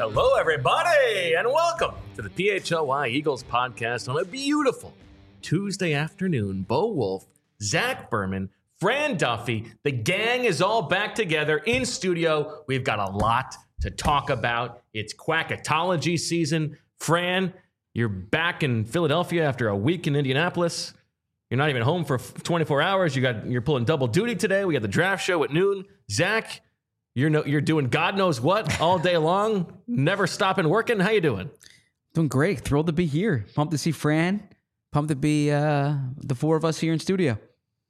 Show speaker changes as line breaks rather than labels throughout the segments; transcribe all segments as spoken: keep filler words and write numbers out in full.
Hello, everybody, and welcome to the P H L Y Eagles podcast on a beautiful Tuesday afternoon. Bo Wolf, Zach Berman, Fran Duffy, the gang is all back together in studio. We've got a lot to talk about. It's Quackatology season. Fran, you're back in Philadelphia after a week in Indianapolis. You're not even home for twenty-four hours. You got, you're pulling double duty today. We got the draft show at noon. Zach, you're no, you're doing God knows what all day long, never stopping working. How you doing?
Doing great. Thrilled to be here. Pumped to see Fran. Pumped to be uh, the four of us here in studio.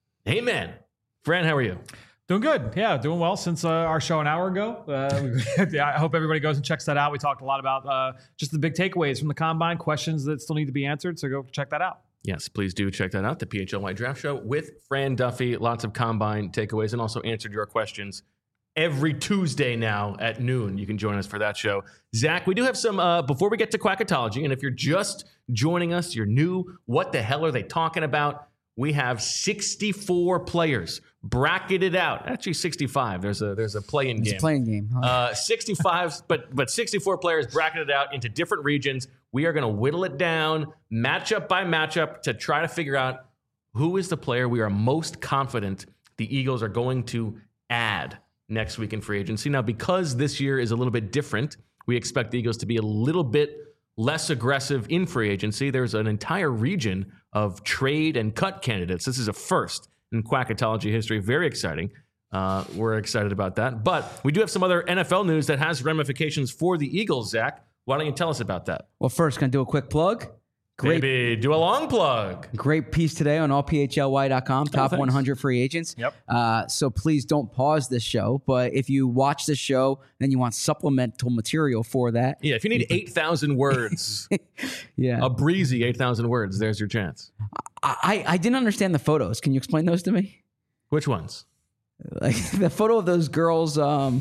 Amen. Fran, how are you?
Doing good. Yeah, doing well since uh, our show an hour ago. Uh, yeah, I hope everybody goes and checks that out. We talked a lot about uh, just the big takeaways from the Combine, questions that still need to be answered, so go check that out.
Yes, please do check that out, the P H L Y Draft Show with Fran Duffy. Lots of Combine takeaways and also answered your questions every Tuesday now at noon. You can join us for that show. Zach, we do have some, uh, before we get to Quackatology, and if you're just joining us, you're new, what the hell are they talking about? We have sixty-four players bracketed out. Actually, sixty-five. There's a there's a play-in game.
It's a playing game. Huh?
Uh, sixty-five, but but sixty-four players bracketed out into different regions. We are going to whittle it down, matchup by matchup, to try to figure out who is the player we are most confident the Eagles are going to add next week in free agency. Now, because this year is a little bit different, we expect the Eagles to be a little bit less aggressive in free agency. There's an entire region of trade and cut candidates. This is a first in Quackatology history. Very exciting. Uh, we're excited about that. But we do have some other N F L news that has ramifications for the Eagles, Zach. Why don't you tell us about that?
Well, first, can I do a quick plug? Great,
Maybe do a long plug.
Great piece today on all P H L Y dot com, top
thanks.
one hundred free agents.
Yep.
Uh, so please don't pause this show. But if you watch this show, then you want supplemental material for that.
Yeah, if you need eight thousand words,
Yeah.
a breezy eight thousand words, there's your chance.
I, I didn't understand the photos. Can you explain those to me?
Which ones?
Like the photo of those girls, um,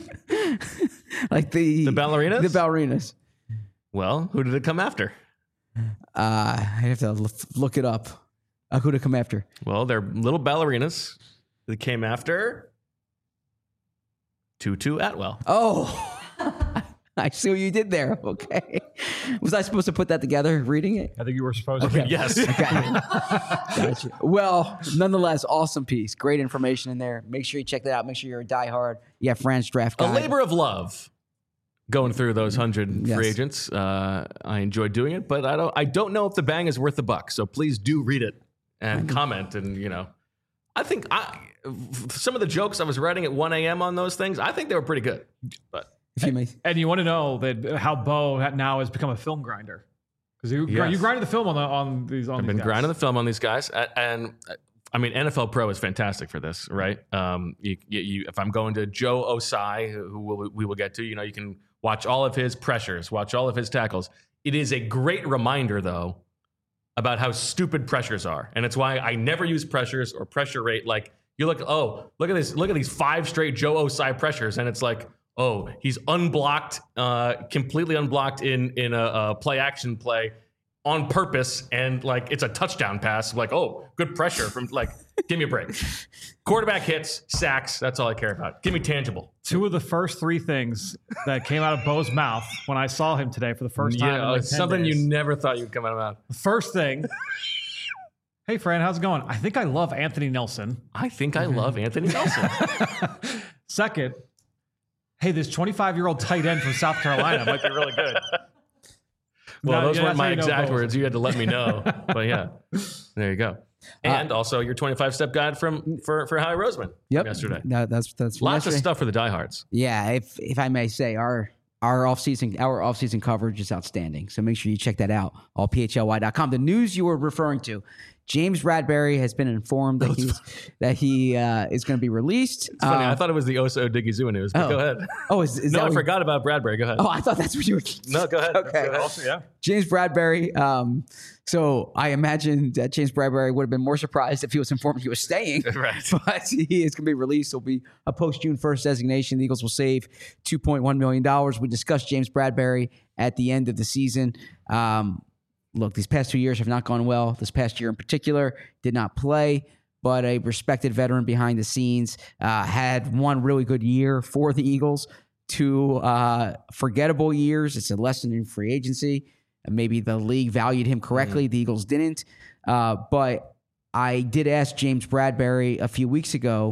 like the...
The ballerinas?
The ballerinas.
Well, who did it come after?
Uh, I have to look, look it up. Uh, who to come after?
Well, they're little ballerinas that came after Tutu Atwell.
Oh, I see what you did there. Okay. Was I supposed to put that together reading it?
I think you were supposed
Okay.
to.
Yes.
Gotcha. Well, nonetheless, awesome piece. Great information in there. Make sure you check that out. Make sure you're a diehard. You have Fran's draft
A
guide.
labor of love going through those hundred
Yes.
free agents. Uh, I enjoyed doing it, but I don't I don't know if the bang is worth the buck. So please do read it and comment. And, you know, I think I some of the jokes I was writing at one a.m. on those things, I think they were pretty good. But
If you may.
And you want to know that how Bo now has become a film grinder. Because you,
Yes.
you grinded the film on, the, on these on
I've
these
been
guys.
grinding the film on these guys, A- and uh, I mean, N F L Pro is fantastic for this, right? Um, you, you, you, if I'm going to Joe Osai, who we'll, we will get to, you know, you can watch all of his pressures, watch all of his tackles. It is a great reminder, though, about how stupid pressures are, and it's why I never use pressures or pressure rate. Like you look, oh, look at this, look at these five straight Joe Osai pressures, and it's like, oh, he's unblocked, uh, completely unblocked in in a, a play action play on purpose, and like it's a touchdown pass. Like, oh, good pressure from like, give me a break. Quarterback hits, sacks. That's all I care about. Give me tangible.
Two of the first three things that came out of Bo's mouth when I saw him today for the first time.
Yeah,
in like
it's
ten
something
days.
you never thought you'd come out of mouth.
The first thing. Hey, Fran, how's it going? I think I love Anthony Nelson.
I think I love Anthony Nelson.
Second, hey, this twenty-five-year-old tight end from South Carolina might be really good.
Well,
No,
those
yeah,
weren't
that's
my
how you know
exact
Bo.
words. You had to let me know. But yeah, there you go. And also your twenty-five step guide from for for Howie Roseman
Yep.
yesterday.
That, that's that's from
Lots
yesterday.
of stuff for the diehards.
Yeah, if if I may say, our our offseason our offseason coverage is outstanding. So make sure you check that out. all P H L Y dot com. The news you were referring to, James Bradbury has been informed that he's that he uh, is going to be released.
It's funny.
Uh,
I thought it was the Oso Digizua news, but
oh.
go ahead.
oh, is, is
No,
that
I
what-
forgot about Bradbury. Go ahead.
Oh, I thought that's what you were.
No, go ahead.
Okay.
Go ahead.
Also, yeah.
James Bradbury. Um, so I imagine that James Bradbury would have been more surprised if he was informed he was staying.
Right.
But he is going to be released. He'll be a post June first designation. The Eagles will save two point one million dollars. We discussed James Bradbury at the end of the season. Um, look, these past two years have not gone well. This past year in particular did not play, but a respected veteran behind the scenes uh, had one really good year for the Eagles. two uh, forgettable years. It's a lesson in free agency. And maybe the league valued him correctly. Mm. The Eagles didn't. Uh, but I did ask James Bradberry a few weeks ago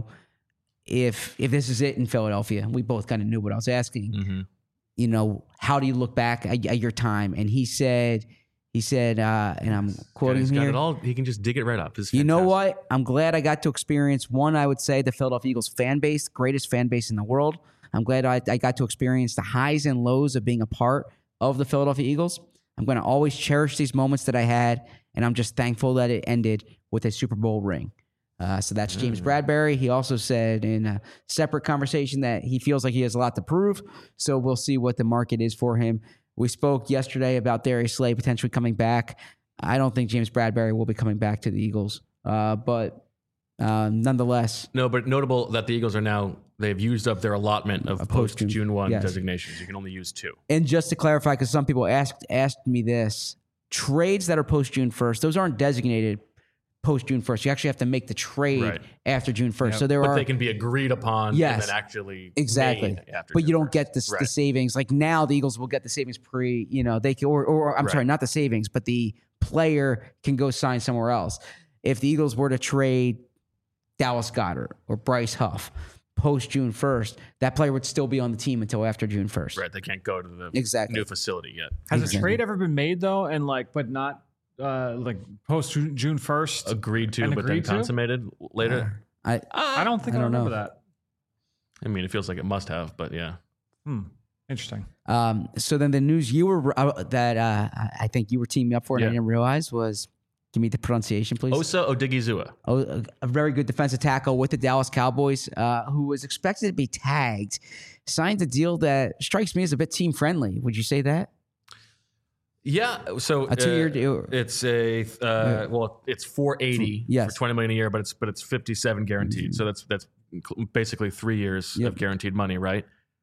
if if this is it in Philadelphia. We both kind of knew what I was asking. Mm-hmm. You know, how do you look back at, at your time? And he said, he said, uh, and I'm quoting
he's
him
got
here.
It all, he can just dig it right up.
You know what? I'm glad I got to experience one. I would say the Philadelphia Eagles fan base, greatest fan base in the world. I'm glad I, I got to experience the highs and lows of being a part of the Philadelphia Eagles. I'm going to always cherish these moments that I had, and I'm just thankful that it ended with a Super Bowl ring. Uh, so that's James mm. Bradberry. He also said in a separate conversation that he feels like he has a lot to prove. So we'll see what the market is for him. We spoke yesterday about Darius Slay potentially coming back. I don't think James Bradberry will be coming back to the Eagles, uh, but uh, nonetheless.
No, but notable that the Eagles are now, they've used up their allotment of post-June first
yes.
designations. You can only use two.
And just to clarify, because some people asked asked me this, trades that are post-June first, those aren't designated post-June first. You actually have to make the trade right. after June first.
Yeah.
So there
but
are,
they can be agreed upon
yes,
and then actually
exactly.
made after
but
June
you don't
first.
get the,
right.
the savings. Like now the Eagles will get the savings pre, you know, they can, or, or I'm right. sorry, not the savings, but the player can go sign somewhere else. If the Eagles were to trade Dallas Goedert or Bryce Huff post June first, that player would still be on the team until after June first.
Right. They can't go to the
exactly.
new facility yet.
Has
exactly.
a trade ever been made though? And like, but not uh, like post June first?
Agreed to, but
agreed
then consummated
to?
later?
Uh, I,
I don't think I,
I
don't
don't
remember
know.
that.
I mean, it feels like it must have, but yeah.
Hmm. Interesting.
Um, so then the news you were, uh, that uh, I think you were teaming up for and
yeah.
I didn't realize was, give me the pronunciation, please.
Osa Odigizua.
Oh, a, a very good defensive tackle with the Dallas Cowboys, uh, who was expected to be tagged, signed a deal that strikes me as a bit team friendly. Would you say that?
Yeah, so
a two-year
uh,
deal.
It's a uh, yeah. well, it's four eighty
yes.
for twenty million a year, but it's but it's fifty-seven guaranteed. Mm-hmm. So that's that's basically three years yep. of guaranteed money, right?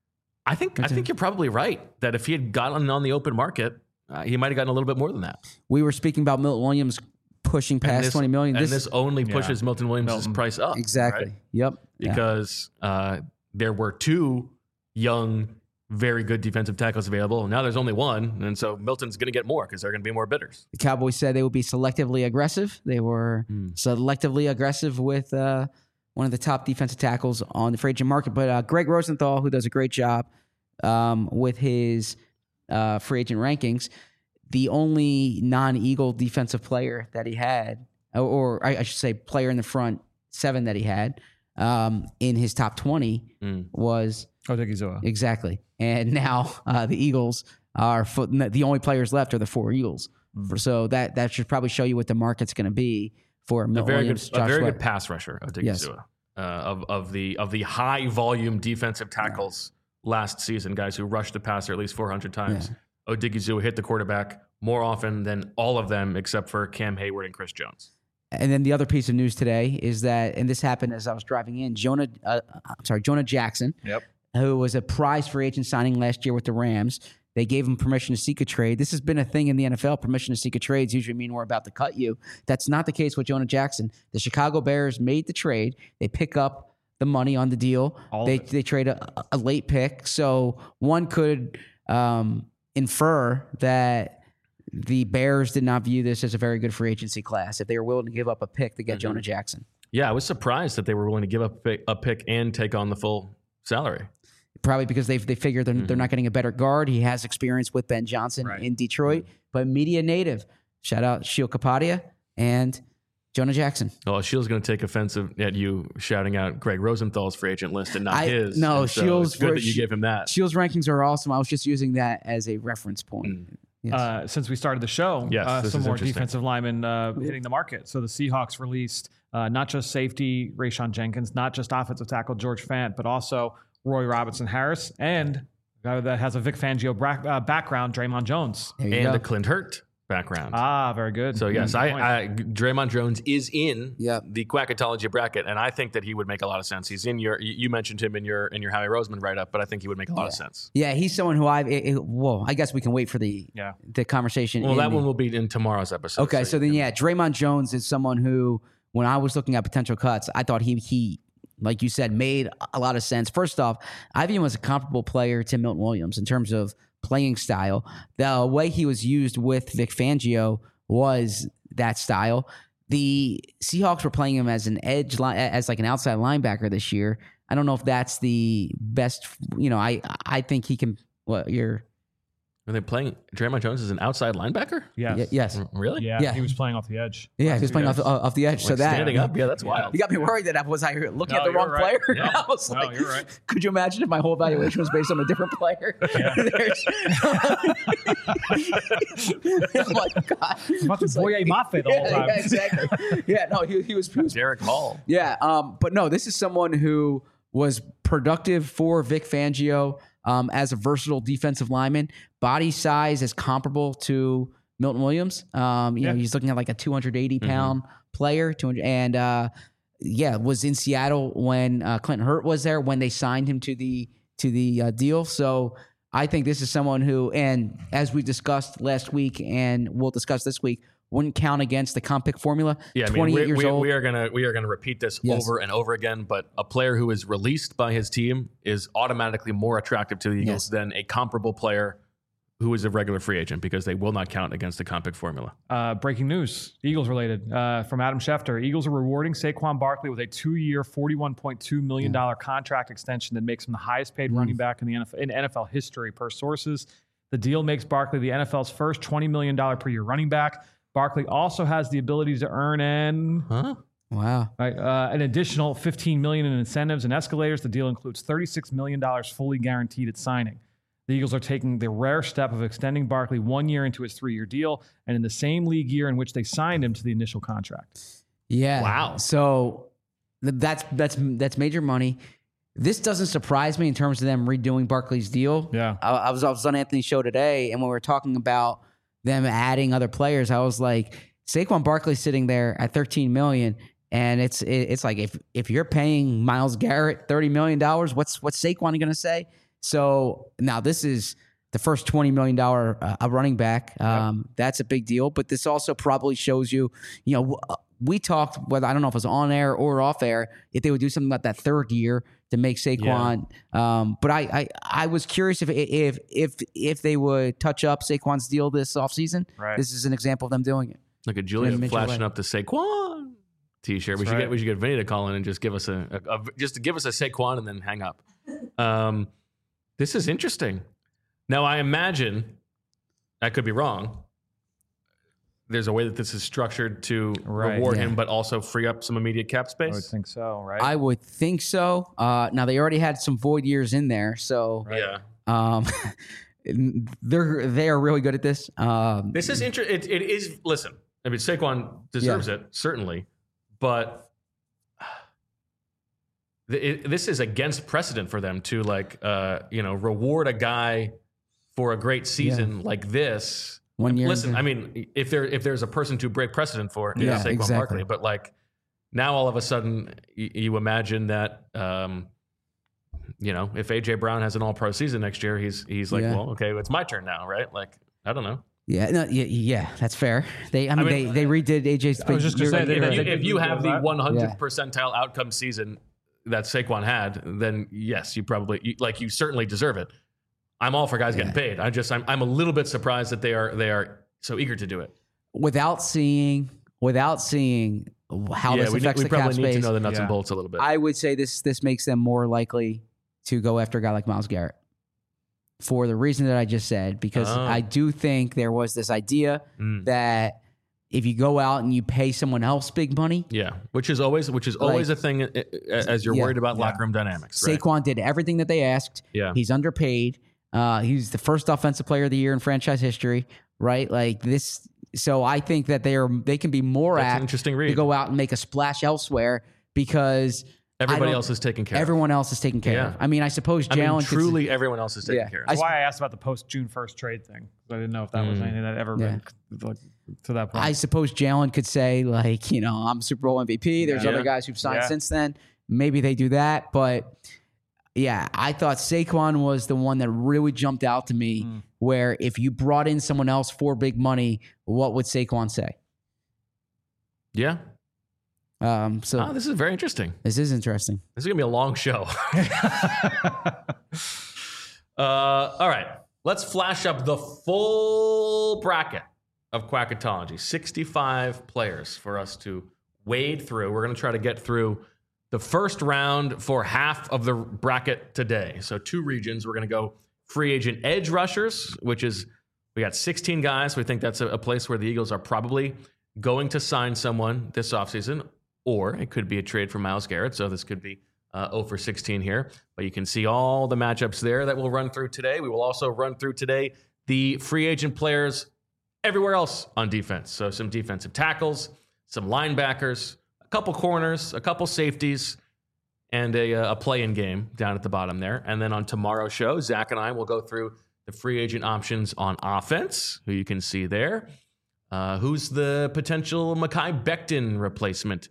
I think that's I think it. You're probably right that if he had gotten on the open market, uh, he might have gotten a little bit more than that.
We were speaking about Milton Williams pushing past
this,
twenty million.
And this, this only pushes yeah. Milton Williams' Milton. price up.
Exactly.
Right?
Yep.
Because yeah. uh, there were two young, very good defensive tackles available. Now there's only one, and so Milton's going to get more because there are going to be more bidders.
The Cowboys said they would be selectively aggressive. They were mm. selectively aggressive with uh, one of the top defensive tackles on the free agent market. But uh, Greg Rosenthal, who does a great job um, with his uh, free agent rankings, the only non-Eagle defensive player that he had, or I should say player in the front seven that he had um, in his top twenty mm. was
Odigizua.
Exactly. And now uh, the Eagles are foot, the only players left are the four Eagles. Mm. So that that should probably show you what the market's going to be for Milton
a very
Williams,
good, a
Josh
very
Sweat.
good pass rusher, Odigizua,
yes.
uh, of of the of the high volume defensive tackles yeah. last season, guys who rushed the passer at least four hundred times. Yeah. Odigizua hit the quarterback more often than all of them except for Cam Hayward and Chris Jones.
And then the other piece of news today is that, and this happened as I was driving in, Jonah, uh, I'm sorry, Jonah Jackson,
yep.
who was a prize free agent signing last year with the Rams. They gave him permission to seek a trade. This has been a thing in the N F L. Permission to seek a trade usually mean we're about to cut you. That's not the case with Jonah Jackson. The Chicago Bears made the trade. They pick up the money on the deal.
All
they they trade a, a late pick. So one could um, infer that the Bears did not view this as a very good free agency class if they were willing to give up a pick to get mm-hmm. Jonah Jackson.
Yeah, I was surprised that they were willing to give up a pick, a pick and take on the full salary.
Probably because they they figure they're, mm-hmm. they're not getting a better guard. He has experience with Ben Johnson right. in Detroit, mm-hmm. but media native. Shout out Sheil Kapadia and Jonah Jackson.
Oh, Sheil's going to take offensive at you shouting out Greg Rosenthal's free agent list and not
I,
his.
No,
and so
Sheil's
it's good that you gave him that.
Sheil's rankings are awesome. I was just using that as a reference point. Mm.
Yes. Uh, since we started the show,
yes,
uh, some more defensive linemen uh, hitting the market. So the Seahawks released uh, not just safety Rayshon Jenkins, not just offensive tackle George Fant, but also Roy Robinson Harris, and a guy that has a Vic Fangio bra- uh, background, Draymond Jones.
And
go.
a Clint Hurt background.
Ah, very good.
So, yes,
good
I, I Draymond Jones is in
yep.
the Quackatology bracket, and I think that he would make a lot of sense. He's in your, you mentioned him in your in your Howie Roseman write-up, but I think he would make a lot
yeah.
of sense.
Yeah, he's someone who I've, it, it, well, I guess we can wait for the
yeah.
the conversation.
Well, that
the,
one will be in tomorrow's episode.
Okay, so, so then,
can,
yeah, Draymond Jones is someone who, when I was looking at potential cuts, I thought he he like you said, made a lot of sense. First off, I view him as a comparable player to Milton Williams in terms of playing style. The way he was used with Vic Fangio was that style. The Seahawks were playing him as an edge, li- as like an outside linebacker this year. I don't know if that's the best. You know, I I think he can. What you're?
Are they playing Draymond Jones as an outside linebacker?
Yes.
Y- yes.
Really?
Yeah,
Yeah.
He was playing off the edge.
Yeah, he was playing off, off the edge. so
Like
that
standing up? Yeah, that's
Yeah.
wild.
You got me worried that I was I looking
No,
at the
you're
wrong
right.
player.
Yeah.
I was
No,
like,
you're right.
Could you imagine if my whole evaluation was based on a different player? There's- oh my God.
About the
It's like-
Boye Mafe the whole
yeah,
time.
yeah, exactly. Yeah, no, he, he was, he was
Derek Hall.
yeah, um, but no, this is someone who was productive for Vic Fangio um, as a versatile defensive lineman. Body size is comparable to Milton Williams. Um, you know,
Yeah.
he's looking at like a two hundred eighty pound player, two hundred, and uh, yeah, was in Seattle when uh, Clinton Hurt was there when they signed him to the to the uh, deal. So I think this is someone who, and as we discussed last week, and we'll discuss this week, wouldn't count against the comp pick formula.
Yeah, I mean,
twenty-eight
we,
years
we,
old.
we are gonna we are gonna repeat this
Yes.
over and over again. But a player who is released by his team is automatically more attractive to the Eagles
Yes.
than a comparable player who is a regular free agent because they will not count against the comp pick formula.
Uh, breaking news, Eagles related, uh, from Adam Schefter. Eagles are rewarding Saquon Barkley with a two-year, forty-one point two million dollars contract extension that makes him the highest-paid running back in the N F L, in N F L history per sources. The deal makes Barkley the N F L's first twenty million dollars per year running back. Barkley also has the ability to earn an
Huh?
Wow.
Right, uh, an additional fifteen million dollars in incentives and escalators. The deal includes thirty-six million dollars fully guaranteed at signing. The Eagles are taking the rare step of extending Barkley one year into his three-year deal, and in the same league year in which they signed him to the initial contract.
Yeah.
Wow.
So th- that's that's that's major money. This doesn't surprise me in terms of them redoing Barkley's deal.
Yeah.
I, I was I was on Anthony's show today, and when we were talking about them adding other players, I was like, Saquon Barkley sitting there at thirteen million, and it's it, it's like if if you're paying Myles Garrett thirty million dollars, what's what's Saquon going to say? So now this is the first twenty million dollars uh, a running back. Um, That's a big deal. But this also probably shows you, you know, w- we talked, whether I don't know if it was on air or off air, if they would do something about that third year to make Saquon. Um, but I, I I was curious if if if if they would touch up Saquon's deal this offseason.
Right.
This is an example of them doing it.
Look at Julian
Mitchell
flashing
White.
up the Saquon T-shirt. We
That's
should
right.
get we should get Vinny to call in and just give us a, a, a just to give us a Saquon and then hang up. Um, this is interesting. Now I imagine I could be wrong. There's a way that this is structured to
Right.
reward
Yeah.
him, but also free up some immediate cap
I would
space.
think so, right?
I would think so. Uh, now they already had some void years in there, so
Yeah,
um, they're they are really good at this. Um,
this is interesting. It, it is. Listen, I mean, Saquon deserves it certainly, but it, this is against precedent for them to like, uh, you know, reward a guy for a great season like this.
One year
Listen,
into-
I mean, if there if there's a person to break precedent for, it's
Yeah,
Saquon
exactly.
Barkley. But like now, all of a sudden, you, you imagine that, um, you know, if A J Brown has an All Pro season next year, he's he's like,
Yeah.
well, okay, it's my turn now, right? Like, I don't know.
Yeah, no, yeah, yeah, that's fair. They, I mean,
mean,
they they redid A J's.
I was just gonna
you're-
say, they-
If
they-
you,
they
if
did
you
do
have the
that.
one hundred
Yeah.
percentile outcome season that Saquon had, then yes, you probably you, like you certainly deserve it. I'm all for guys getting paid. I just I'm I'm a little bit surprised that they are they are so eager to do it.
without seeing without seeing how
yeah,
this
we, need-
affects
we
the cap
probably need
space,
to know the nuts and
Yeah.
bolts a little bit.
I would say this this makes them more likely to go after a guy like Myles Garrett for the reason that I just said. Because
Oh.
I do think there was this idea
Mm.
that if you go out and you pay someone else big money,
Yeah, which is always which is always
Like-
a thing uh, uh, as you're
Yeah.
worried about
Yeah.
locker room dynamics. Right?
Saquon did everything that they asked.
Yeah,
He's underpaid. Uh, he's the first offensive player of the year in franchise history, right? Like this. So I think that they are they can be more
that's an
apt
interesting
to
read.
go out and make a splash elsewhere because I
Everybody
don't-
else is taken care of.
everyone else is taken care
Yeah.
of. I mean, I suppose
I mean,
Jalen could-
truly, everyone else is taken
Yeah.
care of.
I
That's why I asked about the post June first trade thing. I didn't know if that was
Mm.
anything that ever
Yeah.
been like, to that point.
I suppose Jalen could say, like, you know, I'm Super Bowl M V P. There's
Yeah.
other guys who've signed
Yeah.
since then. Maybe they do that. But yeah, I thought Saquon was the one that really jumped out to me
Mm.
where if you brought in someone else for big money, what would Saquon say?
Yeah,
Um, so
Oh, this is very interesting.
this is interesting.
This is going to be a long show. uh, all right. Let's flash up the full bracket of Quackatology. sixty-five players for us to wade through. We're going to try to get through the first round for half of the bracket today. So two regions. We're going to go free agent edge rushers, which is we got sixteen guys. We think that's a, a place where the Eagles are probably going to sign someone this offseason, or it could be a trade for Myles Garrett. So this could be uh, zero for sixteen here. But you can see all the matchups there that we'll run through today. We will also run through today the free agent players everywhere else on defense. So some defensive tackles, some linebackers, a couple corners, a couple safeties, and a, a play-in game down at the bottom there. And then on tomorrow's show, Zach and I will go through the free agent options on offense, who you can see there. Uh, who's the potential Mekhi Becton replacement?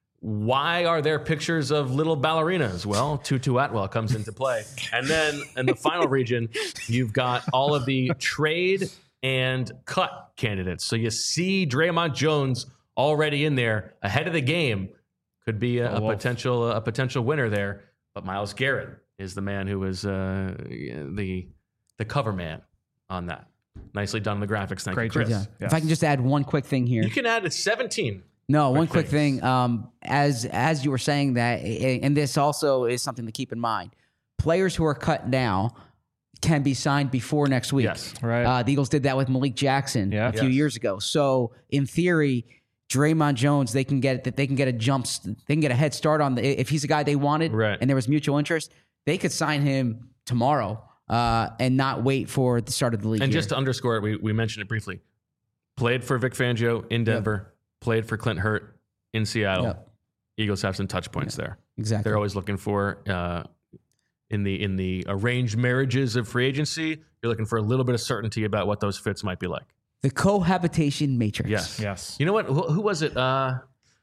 Why are there pictures of little ballerinas? Well, Tutu Atwell comes into play. And then in the final region, you've got all of the trade and cut candidates. So you see Draymond Jones already in there ahead of the game. Could be a,
oh,
a potential a potential winner there. But Myles Garrett is the man who is uh, the the cover man on that. Nicely done in the graphics. Thank
Great
you, Chris.
Yeah.
Yes.
If I can just add one quick thing here.
You can add seventeen.
No, one quick
things.
thing. Um, as as you were saying that, and this also is something to keep in mind. Players who are cut now can be signed before next week.
Yes.
Right.
Uh, the Eagles did that with Malik Jackson
Yeah.
a few
Yes.
years ago. So in theory, Draymond Jones, they can get that they can get a jump, they can get a head start on the if he's a guy they wanted,
Right.
and there was mutual interest, they could sign him tomorrow uh, and not wait for the start of the league.
And
year.
just to underscore it, we, we mentioned it briefly. Played for Vic Fangio in Denver. Played for Clint Hurt in Seattle.
Yep.
Eagles have some touch points there.
exactly.
They're always looking for uh, in the in the arranged marriages of free agency. You're looking for a little bit of certainty about what those fits might be like.
The cohabitation matrix.
Yes.
Yes.
You know what? Who, who was it? Uh,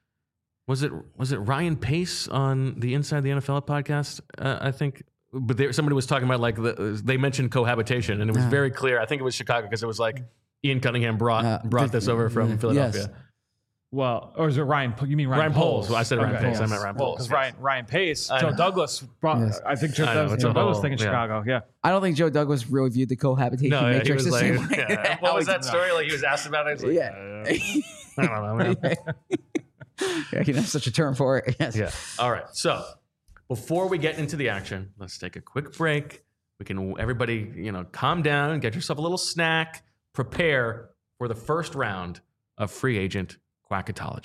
was it was it Ryan Pace on the Inside the N F L podcast? Uh, I think, but there, somebody was talking about like the, they mentioned cohabitation, and it was
Uh.
very clear. I think it was Chicago because it was like Ian Cunningham brought
Uh,
brought
the-
this over from
yes.
Philadelphia.
Well, or is it Ryan? You mean Ryan,
Ryan Poles. Well, I said Ryan
Okay.
Pace. I meant Ryan Poles.
Because
yes.
Ryan Ryan Pace,
I
Joe
know.
Douglas brought.
Yes.
I think Joe,
I know,
Douglas,
it's
Joe
a
Douglas
whole-
thinking
yeah.
Chicago. Yeah.
I don't think Joe Douglas really viewed the cohabitation
No, yeah, he
matrix
was
the
like,
same way.
yeah. what was that story? Like he was asked about it. He's like,
Yeah.
uh, I don't know. Man.
Yeah, you know, such a term for it. Yes.
Yeah. All right. So before we get into the action, let's take a quick break. We can everybody, you know, calm down, get yourself a little snack, prepare for the first round of free agent Quackatology.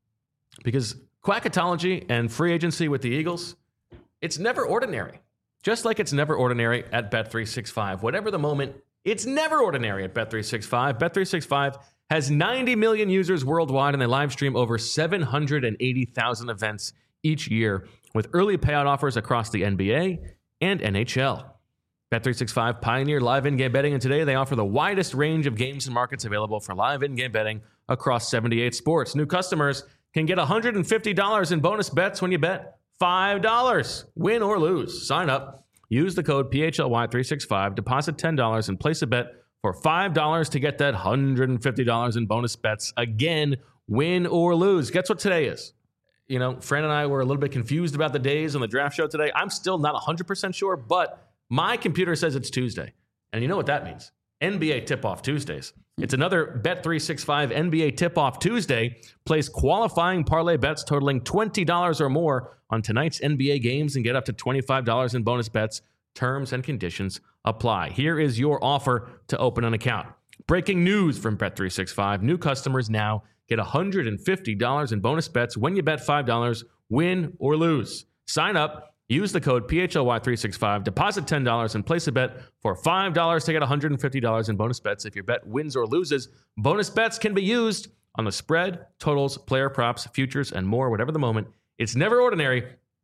Because Quackatology and free agency with the Eagles, it's never ordinary. Just like it's never ordinary at Bet three sixty-five. Whatever the moment, it's never ordinary at Bet three sixty-five. Bet three sixty-five has ninety million users worldwide, and they live stream over seven hundred eighty thousand events each year with early payout offers across the N B A and N H L. Bet three sixty-five pioneered live in-game betting, and today they offer the widest range of games and markets available for live in-game betting across seventy-eight sports. New customers can get one hundred fifty dollars in bonus bets when you bet five dollars. Win or lose. Sign up. Use the code P H L Y three sixty-five. Deposit ten dollars and place a bet for five dollars to get that one hundred fifty dollars in bonus bets. Again, win or lose. Guess what today is? You know, Fran and I were a little bit confused about the days on the draft show today. I'm still not one hundred percent sure, but my computer says it's Tuesday. And you know what that means? N B A Tip-Off Tuesdays. It's another Bet three sixty-five N B A Tip-Off Tuesday. Place qualifying parlay bets totaling twenty dollars or more on tonight's N B A games and get up to twenty-five dollars in bonus bets. Terms and conditions apply. Here is your offer to open an account. Breaking news from Bet three sixty-five. New customers now get one hundred fifty dollars in bonus bets when you bet five dollars, win or lose. Sign up. Use the code P H L Y three sixty-five, deposit ten dollars, and place a bet for five dollars to get one hundred fifty dollars in bonus bets if your bet wins or loses. Bonus bets can be used on the spread, totals, player props, futures, and more, whatever the moment. It's never ordinary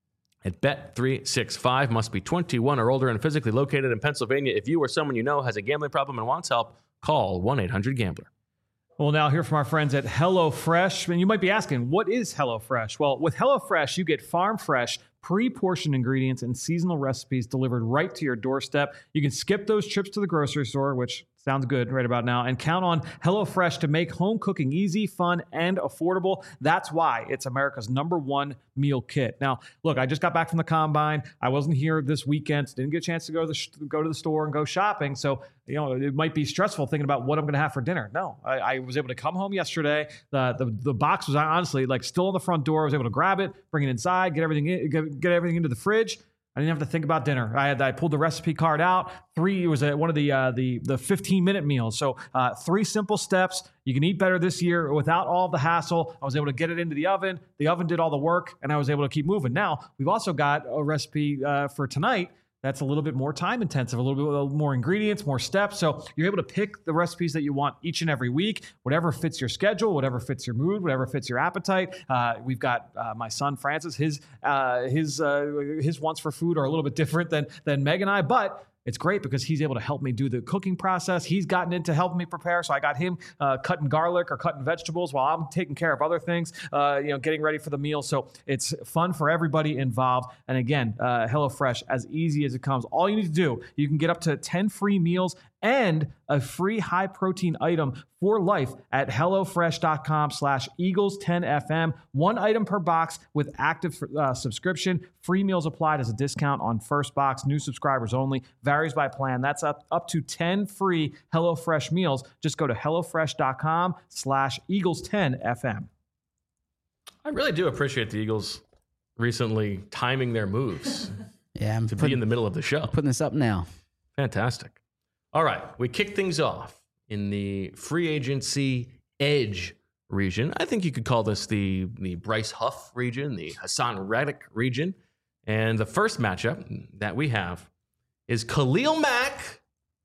at Bet three sixty-five. Must be twenty-one or older and physically located in Pennsylvania. If you or someone you know has a gambling problem and wants help, call one eight hundred gambler.
We'll now hear from our friends at HelloFresh. And you might be asking, what is HelloFresh? Well, with HelloFresh, you get farm fresh, pre-portioned ingredients and seasonal recipes delivered right to your doorstep. You can skip those trips to the grocery store, which Sounds good right about now. And count on HelloFresh to make home cooking easy, fun, and affordable. That's why it's America's number one meal kit. Now, look, I just got back from the combine. I wasn't here this weekend. Didn't get a chance to go to the, sh- go to the store and go shopping. So, you know, it might be stressful thinking about what I'm going to have for dinner. No, I, I was able to come home yesterday. The, the the box was honestly like still on the front door. I was able to grab it, bring it inside, get everything in, get, get everything into the fridge. I didn't have to think about dinner. I had I pulled the recipe card out. Three it was a, one of the uh, the the fifteen minute meals. So uh, three simple steps. You can eat better this year without all the hassle. I was able to get it into the oven. The oven did all the work, and I was able to keep moving. Now we've also got a recipe uh, for tonight that's a little bit more time intensive, a little bit more ingredients, more steps. So you're able to pick the recipes that you want each and every week, whatever fits your schedule, whatever fits your mood, whatever fits your appetite. Uh, we've got uh, my son Francis. His uh, his uh, his wants for food are a little bit different than than Meg and I, but it's great because he's able to help me do the cooking process. He's gotten into helping me prepare. So I got him uh, cutting garlic or cutting vegetables while I'm taking care of other things, uh, you know, getting ready for the meal. So it's fun for everybody involved. And again, uh, HelloFresh, as easy as it comes. All you need to do, you can get up to ten free meals and a free high protein item for life at HelloFresh.com slash Eagles 10FM. One item per box with active uh, subscription. Free meals applied as a discount on first box. New subscribers only. Varies by plan. That's up, up to ten free HelloFresh meals. Just go to HelloFresh.com slash Eagles 10FM.
I really do appreciate the Eagles recently timing their moves
Yeah, I'm
to
putting,
be in the middle of the show.
putting this up now.
Fantastic. All right, we kick things off in the free agency edge region. I think you could call this the, the Bryce Huff region, the Hassan Reddick region. And the first matchup that we have is Khalil Mack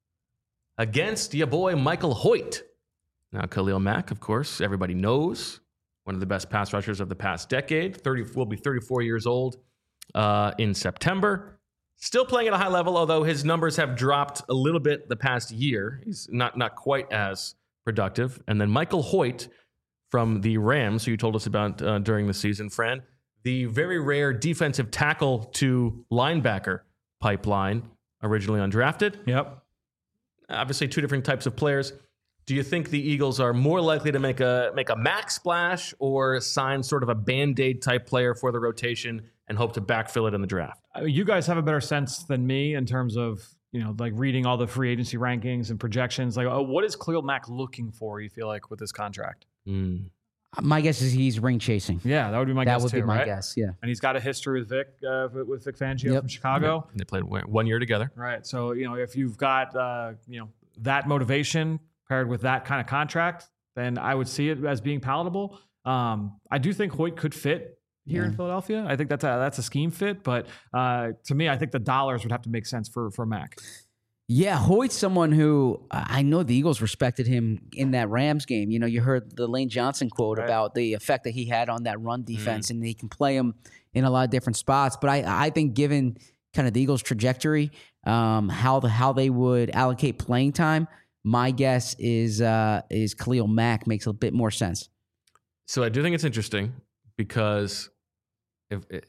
against your boy Michael Hoyt. Now, Khalil Mack, of course, everybody knows, one of the best pass rushers of the past decade. thirty will be thirty-four years old uh, in September. Still playing at a high level, although his numbers have dropped a little bit the past year. He's not not quite as productive. And then Michael Hoyt from the Rams, who you told us about uh, during the season, Fran, the very rare defensive tackle to linebacker pipeline, originally undrafted.
Yep.
Obviously, two different types of players. Do you think the Eagles are more likely to make a make a max splash or sign sort of a Band-Aid type player for the rotation and hope to backfill it in the draft?
Uh, You guys have a better sense than me in terms of, you know, like reading all the free agency rankings and projections. Like, oh, what is Khalil Mack looking for, you feel like, with this contract?
Mm.
My guess is he's ring chasing.
Yeah, that would be my
that
guess
would
too,
be my
right?
guess. Yeah.
And he's got a history with Vic, uh, with Vic Fangio
Yep.
from Chicago.
They played one year together.
Right. So, you know, if you've got, uh, you know, that motivation paired with that kind of contract, then I would see it as being palatable. Um, I do think Hoyt could fit here
Yeah.
in Philadelphia. I think that's a, that's a scheme fit, but uh, to me, I think the dollars would have to make sense for, for Mac.
Yeah, Hoyt's someone who I know the Eagles respected him in that Rams game. You know, you heard the Lane Johnson quote
Right.
about the effect that he had on that run defense, mm. and he can play him in a lot of different spots. But I, I think given kind of the Eagles' trajectory, um, how the how they would allocate playing time, my guess is uh, is Khalil Mack makes a bit more sense.
So I do think it's interesting because if, if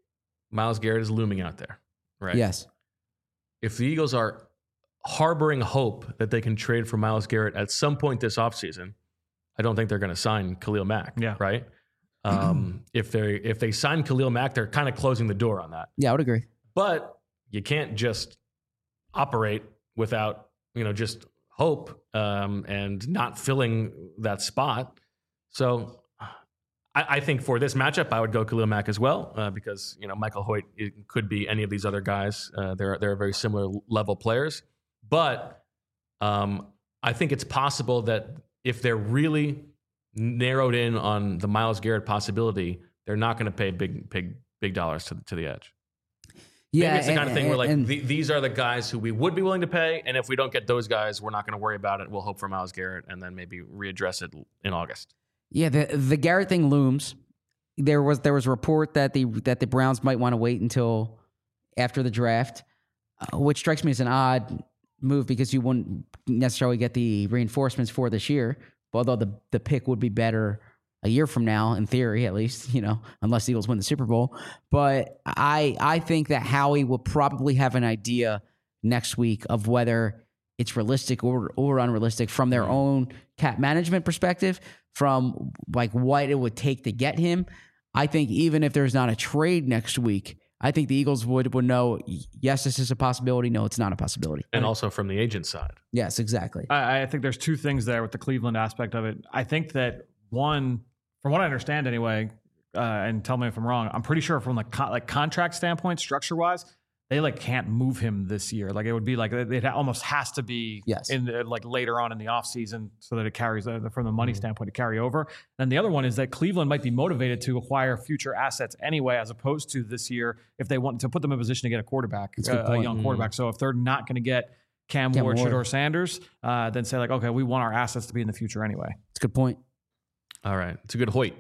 Myles Garrett is looming out there, right?
Yes.
If the Eagles are harboring hope that they can trade for Myles Garrett at some point this offseason, I don't think they're going to sign Khalil Mack.
Yeah.
Right. Um, if they if they sign Khalil Mack, they're kind of closing the door on that.
Yeah, I would agree.
But you can't just operate without, you know, just hope um, and not filling that spot. So I, I think for this matchup, I would go Khalil Mack as well uh, because, you know, Michael Hoyt it could be any of these other guys. Uh, they're they're very similar level players. But um, I think it's possible that if they're really narrowed in on the Myles Garrett possibility, they're not going to pay big, big, big dollars to, to the edge.
Yeah,
Maybe it's the
and,
kind of thing
and,
where like
and,
the, these are the guys who we would be willing to pay, and if we don't get those guys, we're not going to worry about it. We'll hope for Myles Garrett and then maybe readdress it in August.
Yeah, the the Garrett thing looms. There was there was a report that the that the Browns might want to wait until after the draft, uh, which strikes me as an odd move because you wouldn't necessarily get the reinforcements for this year. Although the the pick would be better a year from now, in theory, at least, you know, unless the Eagles win the Super Bowl. But I I think that Howie will probably have an idea next week of whether it's realistic or or unrealistic from their own cap management perspective, from like what it would take to get him. I think even if there's not a trade next week, I think the Eagles would would know, yes, this is a possibility. No, it's not a possibility.
And also from the agent side.
Yes, exactly.
I, I think there's two things there with the Cleveland aspect of it. I think that one, from what I understand anyway, uh, and tell me if I'm wrong, I'm pretty sure from the co- like contract standpoint, structure wise, they like can't move him this year. Like it would be like it almost has to be
Yes.
in the, like later on in the offseason so that it carries uh, from the money mm-hmm. standpoint to carry over. And the other one is that Cleveland might be motivated to acquire future assets anyway, as opposed to this year if they want to put them in a position to get a quarterback, uh, a young quarterback. Mm-hmm. So if they're not going to get Cam, Cam Ward, Shedeur Sanders, uh, then say like, okay, we want our assets to be in the future anyway.
It's a good point.
All right, it's a good Hoyt.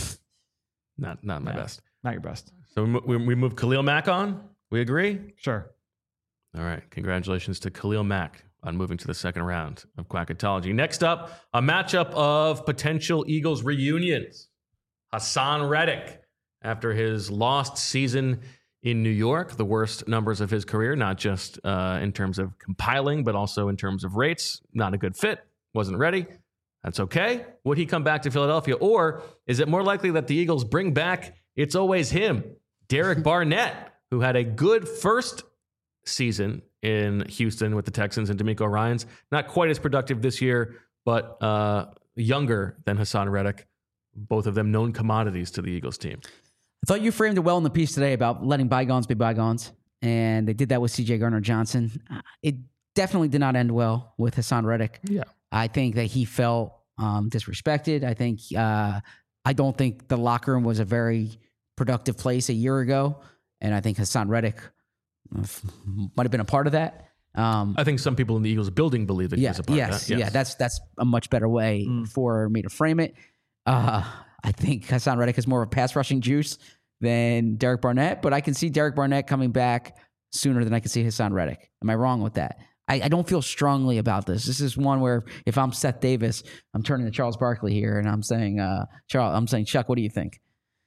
Not not my
yeah,
best.
Not your best.
So we, we move Khalil Mack on. We agree?
Sure.
All right. Congratulations to Khalil Mack on moving to the second round of Quackatology. Next up, a matchup of potential Eagles reunions. Haason Reddick, after his lost season in New York, the worst numbers of his career, not just uh, in terms of compiling, but also in terms of rates. Not a good fit. Wasn't ready. That's okay. Would he come back to Philadelphia? Or is it more likely that the Eagles bring back It's Always Him, Derek Barnett, who had a good first season in Houston with the Texans, and DeMeco Ryans, not quite as productive this year, but uh, younger than Haason Reddick. Both of them known commodities to the Eagles team.
I thought you framed it well in the piece today about letting bygones be bygones, and they did that with C J Gardner-Johnson. It definitely did not end well with Haason Reddick.
Yeah,
I think that he felt um, disrespected. I think uh, I don't think the locker room was a very productive place a year ago. And I think Haason Reddick might have been a part of that. Um,
I think some people in the Eagles building believe that
yeah,
he was a part
yes,
of that. Yes,
yeah, that's that's a much better way
Mm.
for me to frame it. Uh, I think Haason Reddick has more of a pass rushing juice than Derek Barnett, but I can see Derek Barnett coming back sooner than I can see Haason Reddick. Am I wrong with that? I, I don't feel strongly about this. This is one where if I'm Seth Davis, I'm turning to Charles Barkley here, and I'm saying, uh, Charles, I'm saying, Chuck, what do you think?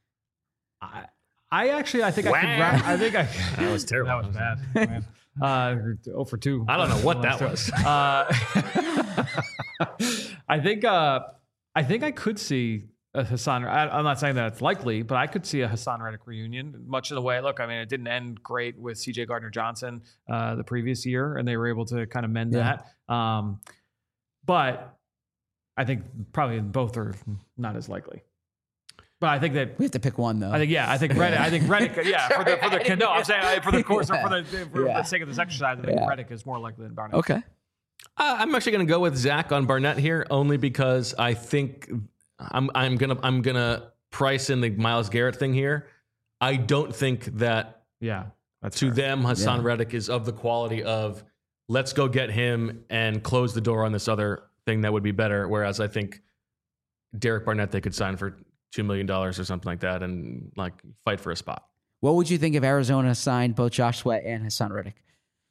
I, I actually, I think I could wrap, I think I,
That was terrible.
that was bad. Man. Uh, oh for two.
I don't know what that was.
Uh, I think, uh, I think I could see a Haason. I, I'm not saying that it's likely, but I could see a Haason Reddick reunion. Much of the way, look, I mean, it didn't end great with C J Gardner-Johnson uh, the previous year, and they were able to kind of mend
Yeah.
that. Um, but I think probably both are not as likely. But I think that
We have to pick one, though.
I think yeah, I think Reddick. I think Reddick. Yeah, for the for the no, I'm saying uh, for the course
Yeah.
or for the for
Yeah.
the sake of this exercise, I think
Yeah.
Reddick is more likely than Barnett.
Okay.
Uh, I'm actually going to go with Zach on Barnett here, only because I think I'm I'm gonna I'm gonna price in the Myles Garrett thing here. I don't think that
Yeah, that's
to
fair.
them Haason
Yeah.
Reddick is of the quality of let's go get him and close the door on this other thing that would be better. Whereas I think Derek Barnett they could sign for two million dollars or something like that and like fight for a spot.
What would you think if Arizona signed both Josh Sweat and Haason Reddick?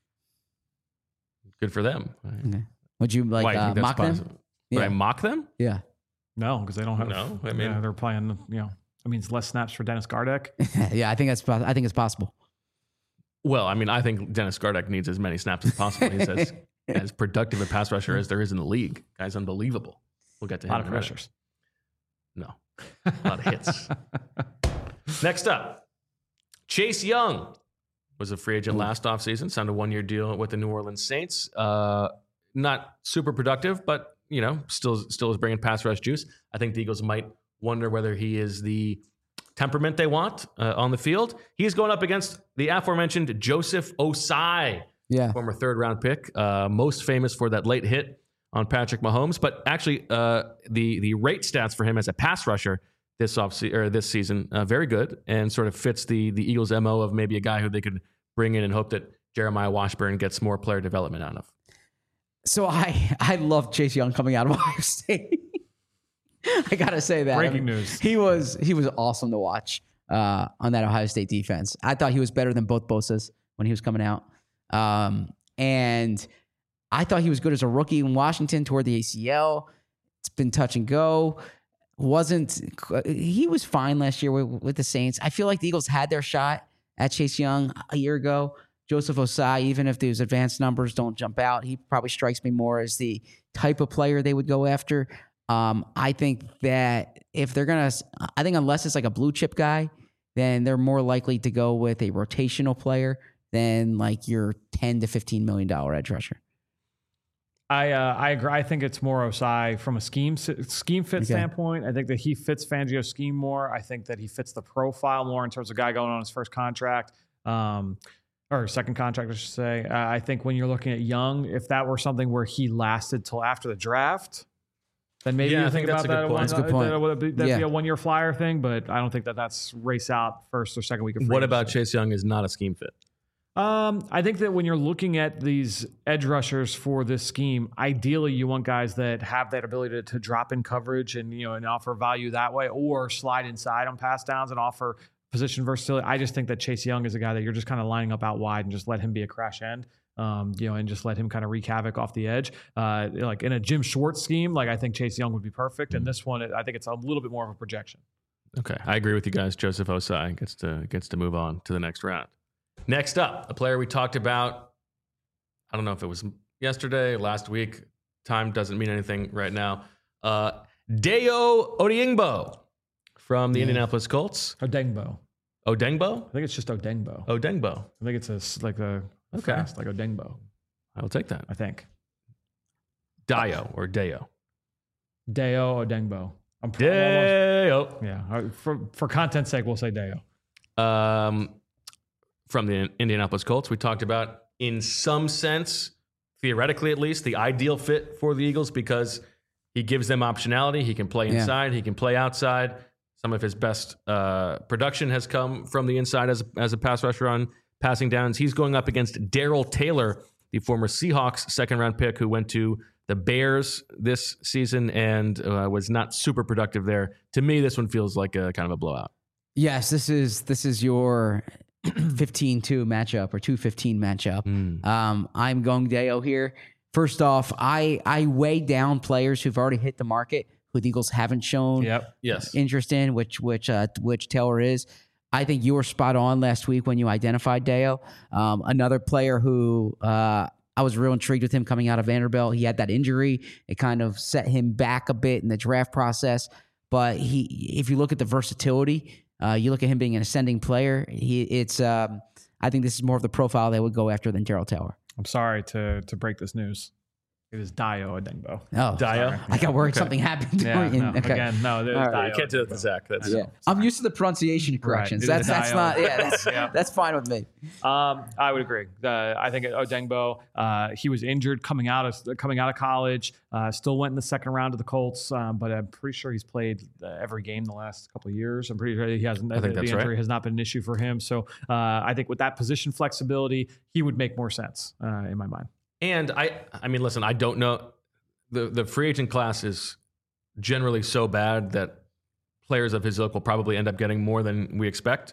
Good for them.
Okay. Would you like
Why, you
uh,
think that's
mock them?
possible? Would I mock them?
Yeah.
No, because they don't have.
No, I mean-
yeah, they're playing. You know, I mean, it's less snaps for Dennis Gardeck.
yeah, I think that's pos- I think it's possible.
Well, I mean, I think Dennis Gardeck needs as many snaps as possible. He's as, as productive a pass rusher as there is in the league. Guy's unbelievable. We'll get to
A
him.
lot of
in a minute.
pressures.
No. A lot of hits. Next up, Chase Young was a free agent last offseason, signed a one-year deal with the New Orleans Saints. Uh, not super productive, but, you know, still still is bringing pass rush juice. I think the Eagles might wonder whether he is the temperament they want uh, on the field. He's going up against the aforementioned Joseph Osai,
Yeah.
former third-round pick, uh, most famous for that late hit on Patrick Mahomes. But actually, uh, the the rate stats for him as a pass rusher this off or this season uh, very good, and sort of fits the the Eagles' M O of maybe a guy who they could bring in and hope that Jeremiah Washburn gets more player development out of.
So I I love Chase Young coming out of Ohio State. I gotta say that.
Breaking
I mean,
news.
He was he was awesome to watch uh, on that Ohio State defense. I thought he was better than both Bosa's when he was coming out, um, and I thought he was good as a rookie in Washington toward the A C L. It's been touch and go. Wasn't he was fine last year with, with the Saints? I feel like the Eagles had their shot at Chase Young a year ago. Joseph Osai, even if those advanced numbers don't jump out, he probably strikes me more as the type of player they would go after. Um, I think that if they're going to, I think unless it's like a blue chip guy, then they're more likely to go with a rotational player than like your ten to fifteen million dollars edge rusher.
I uh, I agree. I think it's more Osai from a scheme scheme fit
Okay.
standpoint. I think that he fits Fangio's scheme more. I think that he fits the profile more in terms of guy going on his first contract, um, or second contract, I should say. Uh, I think when you're looking at Young, if that were something where he lasted till after the draft, then maybe
Yeah,
you
I
think
think that's
about
a good
that.
point.
One,
That's a good point.
That would be, that'd
Yeah.
be a one year flyer thing, but I don't think that that's race out first or second week of free
What about
agency.
Chase Young is not a scheme fit?
Um, I think that when you're looking at these edge rushers for this scheme, ideally you want guys that have that ability to, to drop in coverage and, you know, and offer value that way, or slide inside on pass downs and offer position versatility. I just think that Chase Young is a guy that you're just kind of lining up out wide and just let him be a crash end, um, you know, and just let him kind of wreak havoc off the edge. Uh, like in a Jim Schwartz scheme, like I think Chase Young would be perfect. And this one, I think it's a little bit more of a projection.
Okay, I agree with you guys. Joseph Osai gets to gets to move on to the next round. Next up, a player we talked about. I don't know if it was yesterday, last week. Time doesn't mean anything right now. Uh, Dayo Odeyingbo from the
Yeah.
Indianapolis Colts.
Odengbo.
Odengbo?
I think it's just Odengbo.
Odengbo.
I think it's a, s- like a
Okay.
fast, like Odengbo,
I will take that.
I think.
Dayo or Dayo.
Deo Odengbo. I'm, pr- I'm almost,
Dayo.
yeah. uh, For for content's sake, we'll say Deo.
Um, from the Indianapolis Colts, we talked about, in some sense, theoretically at least, the ideal fit for the Eagles because he gives them optionality. He can play
Yeah.
inside. He can play outside. Some of his best uh, production has come from the inside as a, as a pass rusher on passing downs. He's going up against Darrell Taylor, the former Seahawks second round pick who went to the Bears this season and uh, was not super productive there. To me, this one feels like a kind of a blowout.
Yes, this is this is your fifteen two matchup or two fifteen matchup.
Mm.
Um, I'm going Dayo here. First off, I I weigh down players who've already hit the market, who the Eagles haven't shown
Yep.
Yes.
interest in, which which uh, which Taylor is. I think you were spot on last week when you identified Dayo. Um, another player who uh, I was real intrigued with him coming out of Vanderbilt. He had that injury; it kind of set him back a bit in the draft process. But he, if you look at the versatility, uh, you look at him being an ascending player. He, it's um, I think this is more of the profile they would go after than Darrell Taylor.
I'm sorry to to break this news. It is Dio Odengbo.
Oh,
Dio?
I got worried
Okay.
something happened.
Yeah,
during-
no,
okay.
again, no. It is
All right.
Dio
You can't do that to
Odengbo.
Zach. That's
Yeah. I'm used to the pronunciation corrections.
It
That's
is
that's
Dio.
not yeah that's,
Yeah.
that's fine with me.
Um, I would agree. Uh, I think Odengbo, uh, he was injured coming out of coming out of college. Uh, still went in the second round of the Colts, um, but I'm pretty sure he's played uh, every game the last couple of years. I'm pretty sure he hasn't.
I think
the
that's
injury
right.
has not been an issue for him. So uh, I think with that position flexibility, he would make more sense uh, in my mind.
And I, I mean, listen, I don't know. The the free agent class is generally so bad that players of his ilk will probably end up getting more than we expect.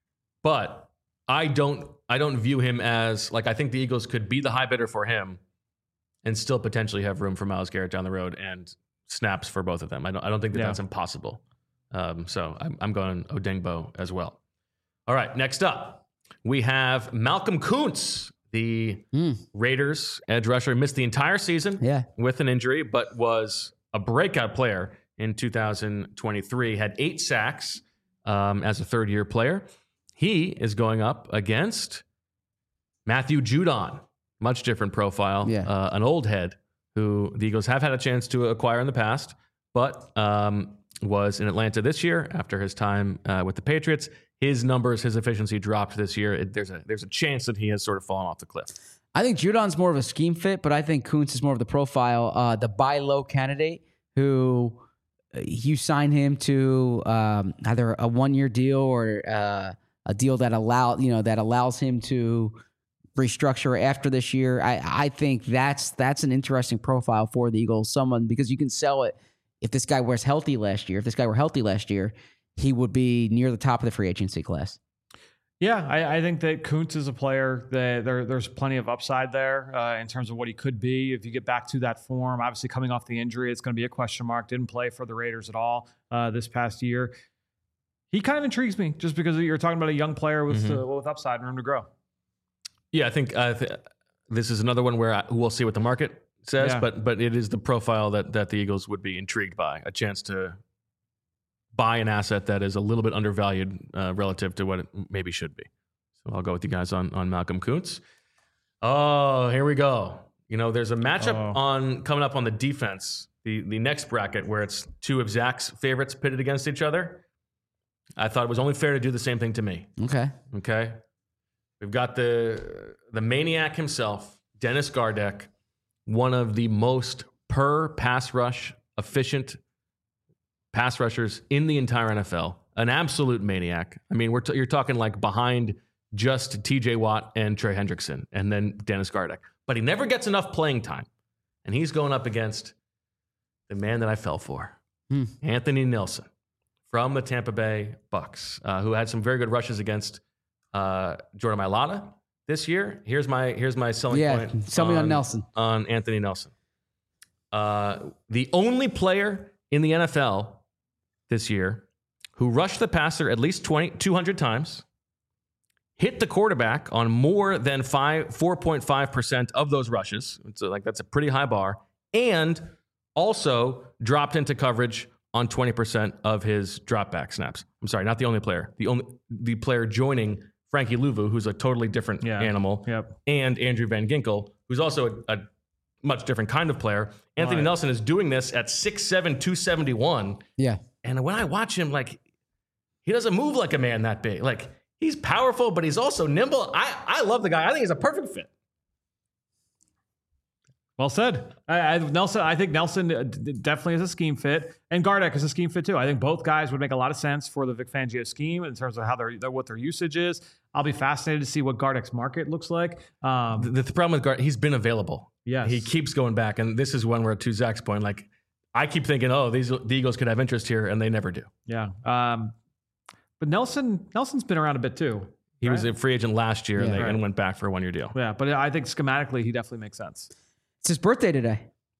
But I don't, I don't view him as like I think the Eagles could be the high bidder for him, and still potentially have room for Myles Garrett down the road and snaps for both of them. I don't, I don't think that
Yeah.
that's impossible. Um, so I'm, I'm going Odengbo as well. All right, next up we have Malcolm Kuntz. The
Mm.
Raiders edge rusher missed the entire season
Yeah.
with an injury, but was a breakout player in two thousand twenty-three. Had eight sacks um, as a third-year player. He is going up against Matthew Judon, much different profile,
Yeah.
uh, an old head who the Eagles have had a chance to acquire in the past, but um, was in Atlanta this year after his time uh, with the Patriots. His numbers, his efficiency dropped this year. It, there's a there's a chance that he has sort of fallen off the cliff.
I think Judon's more of a scheme fit, but I think Kuntz is more of the profile, uh, the buy low candidate who uh, you sign him to um, either a one year deal or uh, a deal that allow you know that allows him to restructure after this year. I, I think that's that's an interesting profile for the Eagles. Someone because you can sell it if this guy was healthy last year. If this guy were healthy last year, he would be near the top of the free agency class.
Yeah, I, I think that Kuntz is a player that there, there's plenty of upside there uh, in terms of what he could be if you get back to that form. Obviously, coming off the injury, it's going to be a question mark. Didn't play for the Raiders at all uh, this past year. He kind of intrigues me just because you're talking about a young player with
Mhm.
uh, with upside and room to grow.
Yeah, I think uh, th- this is another one where I, we'll see what the market says,
Yeah.
but but it is the profile that that the Eagles would be intrigued by, a chance to buy an asset that is a little bit undervalued uh, relative to what it maybe should be. So I'll go with you guys on on Malcolm Kuntz. Oh, here we go. You know, there's a matchup
Oh.
on coming up on the defense, the the next bracket where it's two of Zach's favorites pitted against each other. I thought it was only fair to do the same thing to me.
Okay.
Okay. We've got the the maniac himself, Dennis Gardeck, one of the most per pass rush efficient pass rushers in the entire N F L. An absolute maniac. I mean, we're t- you're talking like behind just T J Watt and Trey Hendrickson, and then Dennis Gardeck. But he never gets enough playing time, and he's going up against the man that I fell for,
Hmm.
Anthony Nelson from the Tampa Bay Bucks, uh, who had some very good rushes against uh, Jordan Mailata this year. Here's my here's my selling
Yeah,
point.
sell me on Nelson.
On Anthony Nelson. Uh, the only player in the N F L this year who rushed the passer at least twenty, two hundred times, hit the quarterback on more than five, four point five percent of those rushes. So like that's a pretty high bar. And also dropped into coverage on twenty percent of his drop back snaps. I'm sorry, not the only player. The only the player joining Frankie Louvu, who's a totally different
Yeah.
animal,
Yep.
and Andrew Van Ginkel, who's also a, a much different kind of player. Anthony
Right.
Nelson is doing this at six seven, two seventy-one.
Yeah.
And when I watch him, like, he doesn't move like a man that big. Like, he's powerful, but he's also nimble. I, I love the guy. I think he's a perfect fit.
Well said. I, I, Nelson, I think Nelson uh, d- definitely is a scheme fit, and Gardeck is a scheme fit too. I think both guys would make a lot of sense for the Vic Fangio scheme in terms of how their, their what their usage is. I'll be fascinated to see what Gardeck's market looks like. Um,
The, the problem with Gart, he's been available.
Yes.
He keeps going back. And this is one where, to Zach's point, like, I keep thinking, oh, these the Eagles could have interest here, and they never do.
yeah, um, but Nelson Nelson's been around a bit too.
He was
right?
a free agent last year, and,
Yeah.
they,
Right.
and went back for a one-year deal.
Yeah, but I think schematically he definitely makes sense.
It's his birthday today.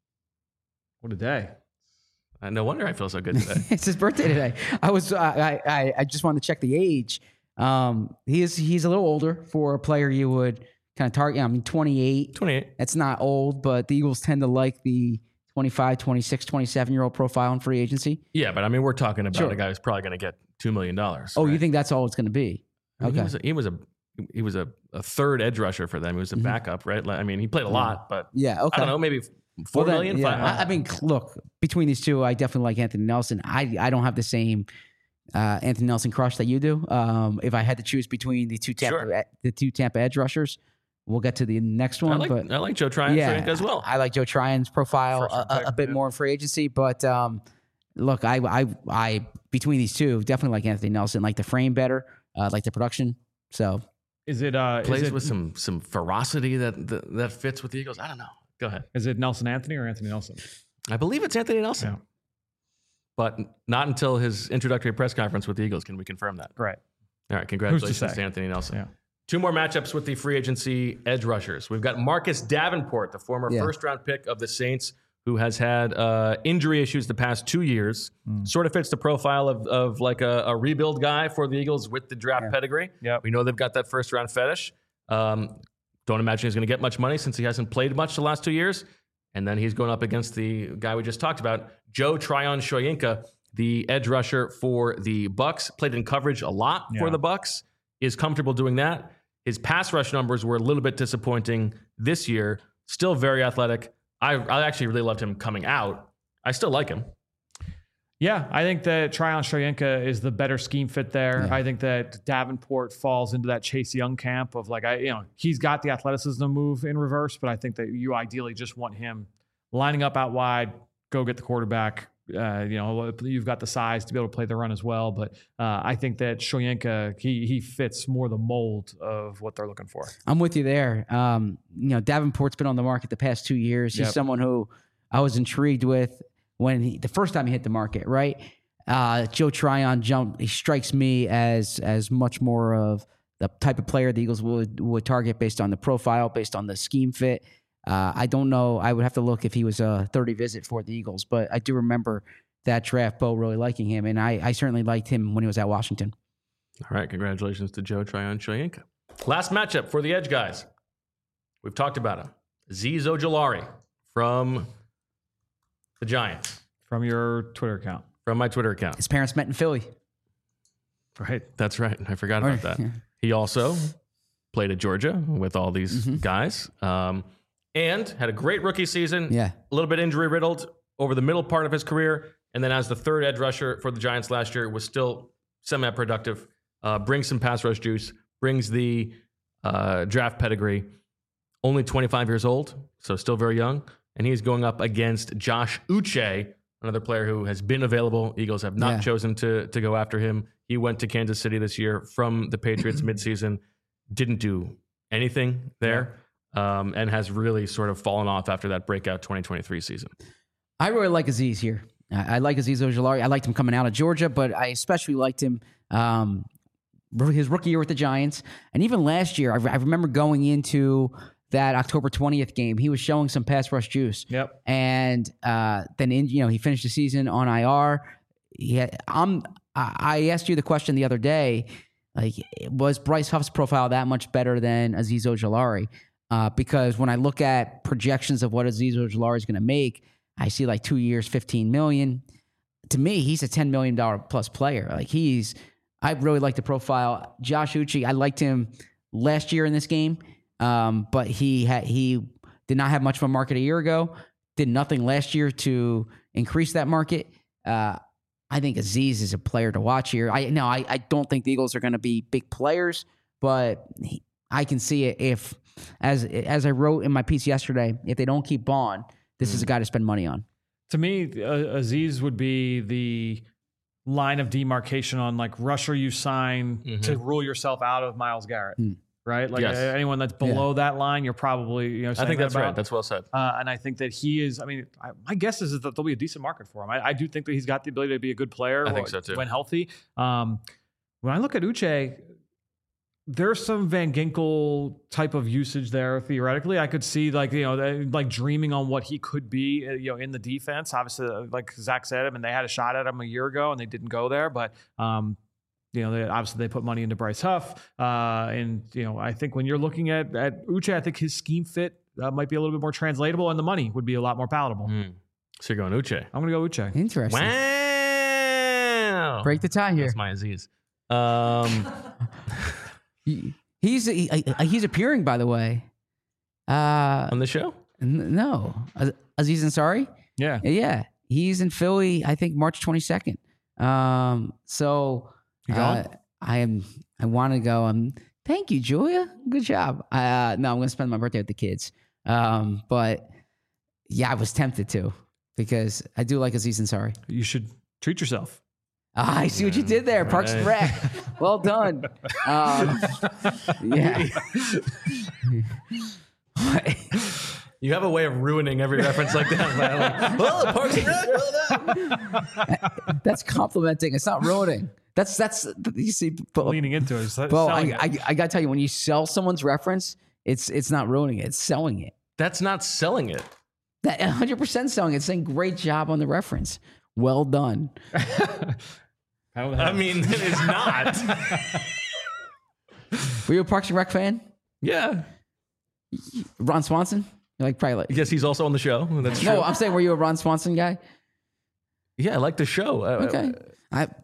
What a day!
Uh, no wonder I feel so good today.
It's his birthday today. I was I, I I just wanted to check the age. Um, he is he's a little older for a player you would kind of target. I mean, twenty-eight.
twenty-eight.
That's not old, but the Eagles tend to like the twenty-five, twenty-six, twenty-seven year old profile in free agency.
Yeah, but I mean, we're talking about
Sure.
a guy who's probably going to get two million dollars.
Oh, you think that's all it's going to be?
I mean,
Okay.
He was a, he was a he was a, a third edge rusher for them. He was a
Mhm.
backup, right? Like, I mean, he played a lot, but
Yeah. Okay.
I don't know, maybe four
Well, then,
million.
yeah.
five,
I, I mean, look, between these two, I definitely like Anthony Nelson. I I don't have the same uh, Anthony Nelson crush that you do. Um, if I had to choose between the two Tampa
Sure.
the two Tampa edge rushers, we'll get to the next
I
one.
like
but
I like Joe Tryon
yeah,
as well.
I like Joe Tryon's profile
First
a,
round
a,
pick,
a bit
yeah.
more in free agency, but um, look, I, I, I between these two, definitely like Anthony Nelson. Like the frame better, uh, like the production. So
Is it uh,
Plays
is it,
with some some ferocity that, that that fits with the Eagles. I don't know. Go ahead.
is it Nelson Anthony or Anthony Nelson?
I believe it's Anthony Nelson,
Yeah.
but not until his introductory press conference with the Eagles can we confirm that.
Right.
All right, congratulations
say?
to Anthony Nelson.
Yeah.
Two more matchups with the free agency edge rushers. We've got Marcus Davenport, the former
Yeah.
first round pick of the Saints, who has had uh, injury issues the past two years.
Mm.
Sort of fits the profile of, of like a, a rebuild guy for the Eagles with the draft
Yeah.
pedigree.
Yep.
We know they've got that first round fetish. Um, don't imagine he's going to get much money since he hasn't played much the last two years. And then he's going up against the guy we just talked about, Joe Tryon Shoyinka, the edge rusher for the Bucks. Played in coverage a lot for
Yeah.
the Bucks. Is comfortable doing that. His pass rush numbers were a little bit disappointing this year. Still very athletic. I, I actually really loved him coming out. I still like him.
Yeah, I think that Tryon Shoyinka is the better scheme fit there.
Yeah.
I think that Davenport falls into that Chase Young camp of like, I, you know, he's got the athleticism to move in reverse, but I think that you ideally just want him lining up out wide, go get the quarterback. Uh, you know, you've got the size to be able to play the run as well. But uh, I think that Shoyinka, he he fits more the mold of what they're looking for.
I'm with you there. Um, you know, Davenport's been on the market the past two years. He's
Yep.
someone who I was intrigued with when he, the first time he hit the market, right? Uh, Joe Tryon jump. He strikes me as as much more of the type of player the Eagles would would target based on the profile, based on the scheme fit. Uh, I don't know. I would have to look if he was a thirty visit for the Eagles, but I do remember that draft, Bo really liking him, and I, I certainly liked him when he was at Washington.
All right, congratulations to Joe Tryon Shoyinka. Last matchup for the edge guys. We've talked about him. Azeez Ojulari from the Giants.
From your Twitter account.
From my Twitter account.
His parents met in Philly.
Right. That's right. I forgot about that.
Yeah.
He also played at Georgia with all these mm-hmm. guys um, and had a great rookie season.
Yeah.
A little bit injury riddled over the middle part of his career. And then as the third edge rusher for the Giants last year, was still semi-productive. Uh, brings some pass rush juice. Brings the uh, draft pedigree. Only twenty-five years old, so still very young. And he's going up against Josh Uche, another player who has been available. Eagles have not yeah. chosen to, to go after him. He went to Kansas City this year from the Patriots midseason. Didn't do anything there um, and has really sort of fallen off after that breakout twenty twenty-three season.
I really like Azeez here. I, I like Azeez Ojulari. I liked him coming out of Georgia, but I especially liked him um, his rookie year with the Giants. And even last year, I, I remember going into that October twentieth game, he was showing some pass rush juice.
Yep.
And uh, then, in, you know, he finished the season on I R. He had, I'm, I asked you the question the other day, like, was Bryce Huff's profile that much better than Azeez Ojulari? Uh, because when I look at projections of what Azeez Ojulari is going to make, I see like two years, fifteen million dollars. To me, he's a ten million dollars plus player. Like he's, I really like the profile. Josh Uche, I liked him last year in this game. Um, but he had he did not have much of a market a year ago. Did nothing last year to increase that market. Uh, I think Azeez is a player to watch here. I no, I, I don't think the Eagles are going to be big players, but he, I can see it if, as as I wrote in my piece yesterday, if they don't keep Bond, this mm. is a guy to spend money on.
To me, uh, Azeez would be the line of demarcation on like rusher you sign mm-hmm. to rule yourself out of Myles Garrett. Mm. Right? Like yes. anyone that's below yeah. that line, you're probably, you know,
I think
that
that's
about.
right. That's well said.
Uh, and I think that he is, I mean, I, my guess is that there'll be a decent market for him. I, I do think that he's got the ability to be a good player
I think so too.
when healthy. Um, when I look at Uche, there's some Van Ginkel type of usage there. Theoretically, I could see like, you know, like dreaming on what he could be, you know, in the defense. Obviously, like Zach said, I mean, they had a shot at him a year ago and they didn't go there, but, um, you know, they, obviously they put money into Bryce Huff. Uh, and, you know, I think when you're looking at, at Uche, I think his scheme fit uh, might be a little bit more translatable and the money would be a lot more palatable.
Mm. So you're going Uche.
I'm going to go Uche.
Interesting.
Wow.
Break the tie here.
That's my Azeez. Um,
he, he's, he, he's appearing, by the way. Uh,
On the show?
N- no. Azeez Ansari?
Yeah.
Yeah. He's in Philly, I think, March twenty-second. Um, so... Uh, I am. I want to go. Um, thank you, Julia. Good job. Uh, no, I'm going to spend my birthday with the kids. Um, but yeah, I was tempted to because I do like Azeez Ansari.
You should treat yourself.
Ah, I see what you did there, Parks and Rec. Well done. Um, yeah.
You have a way of ruining every reference like that. Man. Like, well, Parks and Rec, well
done. That's complimenting. It's not ruining. That's that's you see, but,
leaning into it.
Well, I, it. I I gotta tell you, when you sell someone's reference, it's it's not ruining it; it's selling it.
That's not selling it.
That one hundred percent selling it. It's saying great job on the reference. Well done.
I mean, it is not.
Were you a Parks and Rec fan?
Yeah.
Ron Swanson? You're like probably. Like,
yes, he's also on the show. That's true.
No, I'm saying, were you a Ron Swanson guy?
Yeah, I like the show.
Okay. I. I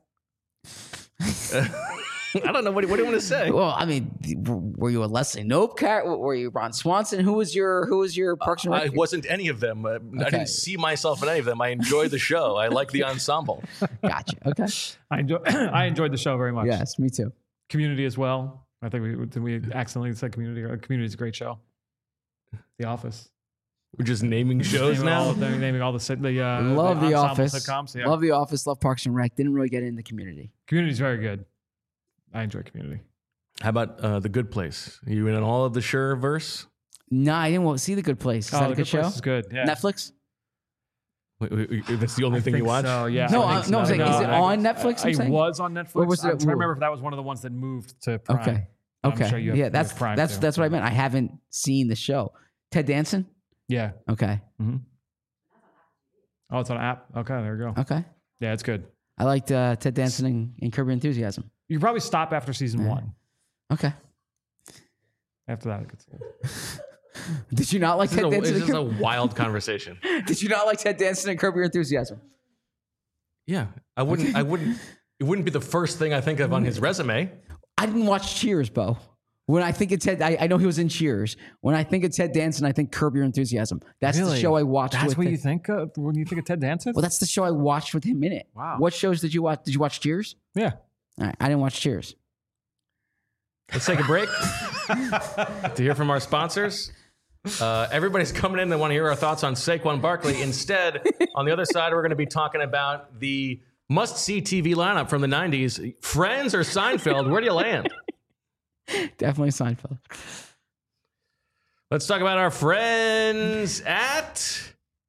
I don't know. What do, what do you want to say?
Well, I mean, were you a Leslie Knope cat? Were you Ron Swanson? Who was your Who was your Parks and Rec?
I wasn't any of them. Uh, okay. I didn't see myself in any of them. I enjoy the show. I like the ensemble.
Gotcha. Okay.
I enjoy. I enjoyed the show very much.
Yes, me too.
Community as well. I think we we accidentally said Community. Community is a great show. The Office.
We're just naming shows
naming
now.
All, they're naming all the the uh,
love the,
the
Office.
Sitcoms, yeah.
Love the Office. Love Parks and Rec. Didn't really get into Community.
Community is very good. I enjoy Community.
How about uh, The Good Place? Are you in all of the Sure verse?
No, I didn't see The Good Place. Is
oh,
that
the
a good,
good
show?
Place is good. Yeah.
Netflix.
Wait, wait, wait, that's the only
I
thing you watch?
So, yeah.
No,
I
I,
so.
no, I'm saying,
no,
is it
I,
on Netflix?
It was on Netflix. Or
was it?
I'm trying to remember if that was one of the ones that moved to Prime.
Okay.
I'm
Okay.
sure you have,
yeah, that's
you have Prime
that's
too.
that's what I meant. I haven't seen the show. Ted Danson.
Yeah.
Okay.
Mm-hmm. Oh, it's on an app. Okay, there we go.
Okay.
Yeah, it's good.
I liked uh, Ted Danson and, and Curb Your Enthusiasm.
You could probably stop after season
Yeah.
one.
Okay.
After that, it gets good.
Did you not like
This is
Ted
a,
Danson?
this is
and
a
Curb-
wild conversation.
Did you not like Ted Danson and Curb Your Enthusiasm?
Yeah, I wouldn't. I wouldn't. It wouldn't be the first thing I think of on his resume.
I didn't watch Cheers, Bo. When I think it's Ted, I, I know he was in Cheers. When I think of Ted Danson, I think Curb Your Enthusiasm. That's the
Really?
show I watched.
That's
with
what
him.
you think of when you think of Ted Danson?
Well, that's the show I watched with him in it.
Wow.
What shows did you watch? Did you watch Cheers?
Yeah.
All right, I didn't watch Cheers.
Let's take a break to hear from our sponsors. Uh, everybody's coming in. They want to hear our thoughts on Saquon Barkley. Instead, on the other side, we're going to be talking about the must-see T V lineup from the nineties. Friends or Seinfeld? Where do you land?
Definitely Seinfeld.
Let's talk about our friends at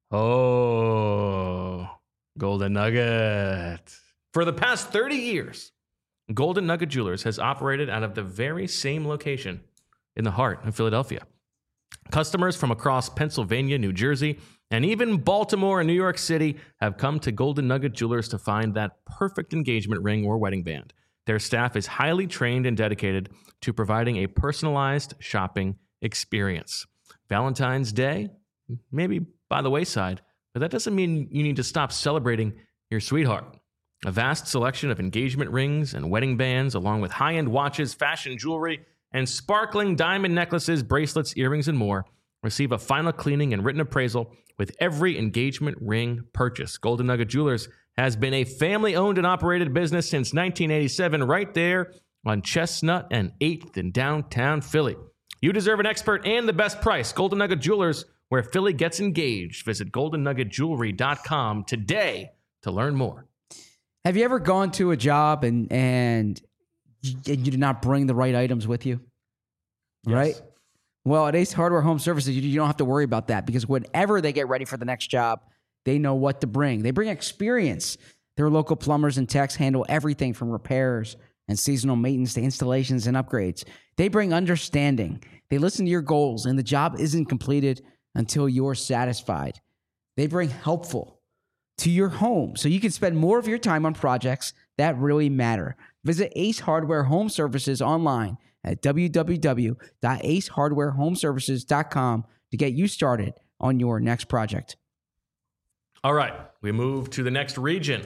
Oh Golden Nugget. For the past thirty years, Golden Nugget Jewelers has operated out of the very same location in the heart of Philadelphia. Customers from across Pennsylvania, New Jersey, and even Baltimore and New York City have come to Golden Nugget Jewelers to find that perfect engagement ring or wedding band. Their staff is highly trained and dedicated to providing a personalized shopping experience. Valentine's Day, maybe by the wayside, but that doesn't mean you need to stop celebrating your sweetheart. A vast selection of engagement rings and wedding bands, along with high-end watches, fashion jewelry, and sparkling diamond necklaces, bracelets, earrings, and more, receive a final cleaning and written appraisal with every engagement ring purchase. Golden Nugget Jewelers has been a family-owned and operated business since nineteen eighty-seven, right there on Chestnut and eighth in downtown Philly. You deserve an expert and the best price. Golden Nugget Jewelers, where Philly gets engaged. Visit golden nugget jewelry dot com today to learn more.
Have you ever gone to a job and and you, you did not bring the right items with you?
Yes.
Right? Well, at Ace Hardware Home Services, you, you don't have to worry about that because whenever they get ready for the next job, they know what to bring. They bring experience. Their local plumbers and techs handle everything from repairs and seasonal maintenance to installations and upgrades. They bring understanding. They listen to your goals, and the job isn't completed until you're satisfied. They bring helpful to your home so you can spend more of your time on projects that really matter. Visit Ace Hardware Home Services online at w w w dot ace hardware home services dot com to get you started on your next project.
All right, we move to the next region.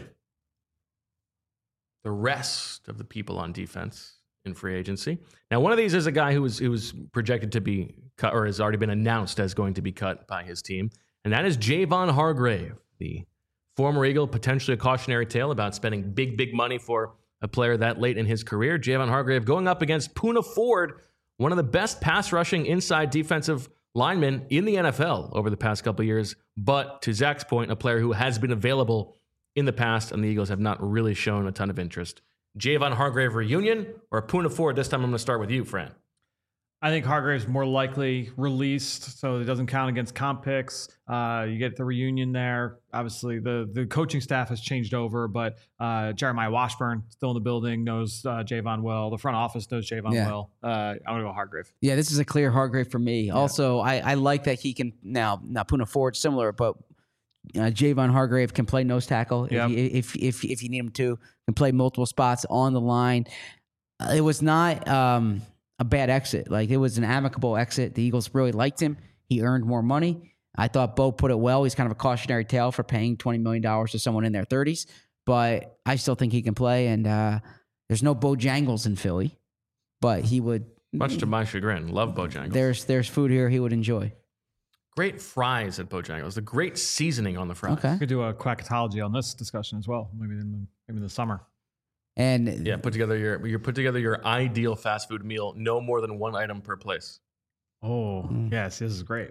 The rest of the people on defense in free agency. Now, one of these is a guy who was who was projected to be cut or has already been announced as going to be cut by his team, and that is Javon Hargrave, the former Eagle, potentially a cautionary tale about spending big, big money for a player that late in his career. Javon Hargrave going up against Poona Ford, one of the best pass rushing inside defensive linemen in the N F L over the past couple of years. But to Zach's point, a player who has been available in the past, and the Eagles have not really shown a ton of interest. Javon Hargrave reunion or Poona Ford? This time I'm going to start with you, Fran.
I think Hargrave's more likely released, so it doesn't count against comp picks. Uh, you get the reunion there. Obviously, the the coaching staff has changed over, but uh, Jeremiah Washburn still in the building, knows uh, Javon well. The front office knows Javon
Yeah.
well. Uh, I'm going to go Hargrave.
Yeah, this is a clear Hargrave for me. Also, I, I like that he can now. Now Poona Ford similar, but uh, Javon Hargrave can play nose tackle
Yep.
if, you, if if if you need him to. Can play multiple spots on the line. Uh, it was not um, a bad exit. Like it was an amicable exit. The Eagles really liked him. He earned more money. I thought Bo put it well. He's kind of a cautionary tale for paying twenty million dollars to someone in their thirties, but I still think he can play. And uh, there's no Bojangles in Philly, but he would.
Much to my chagrin, love Bojangles.
There's there's food here he would enjoy.
Great fries at Bojangles. The great seasoning on the fries.
Okay.
We could do a quackatology on this discussion as well, maybe in the, maybe in the summer.
And
Yeah, put together your you put together your ideal fast food meal. No more than one item per place.
Oh,
Mm.
yes, this is great.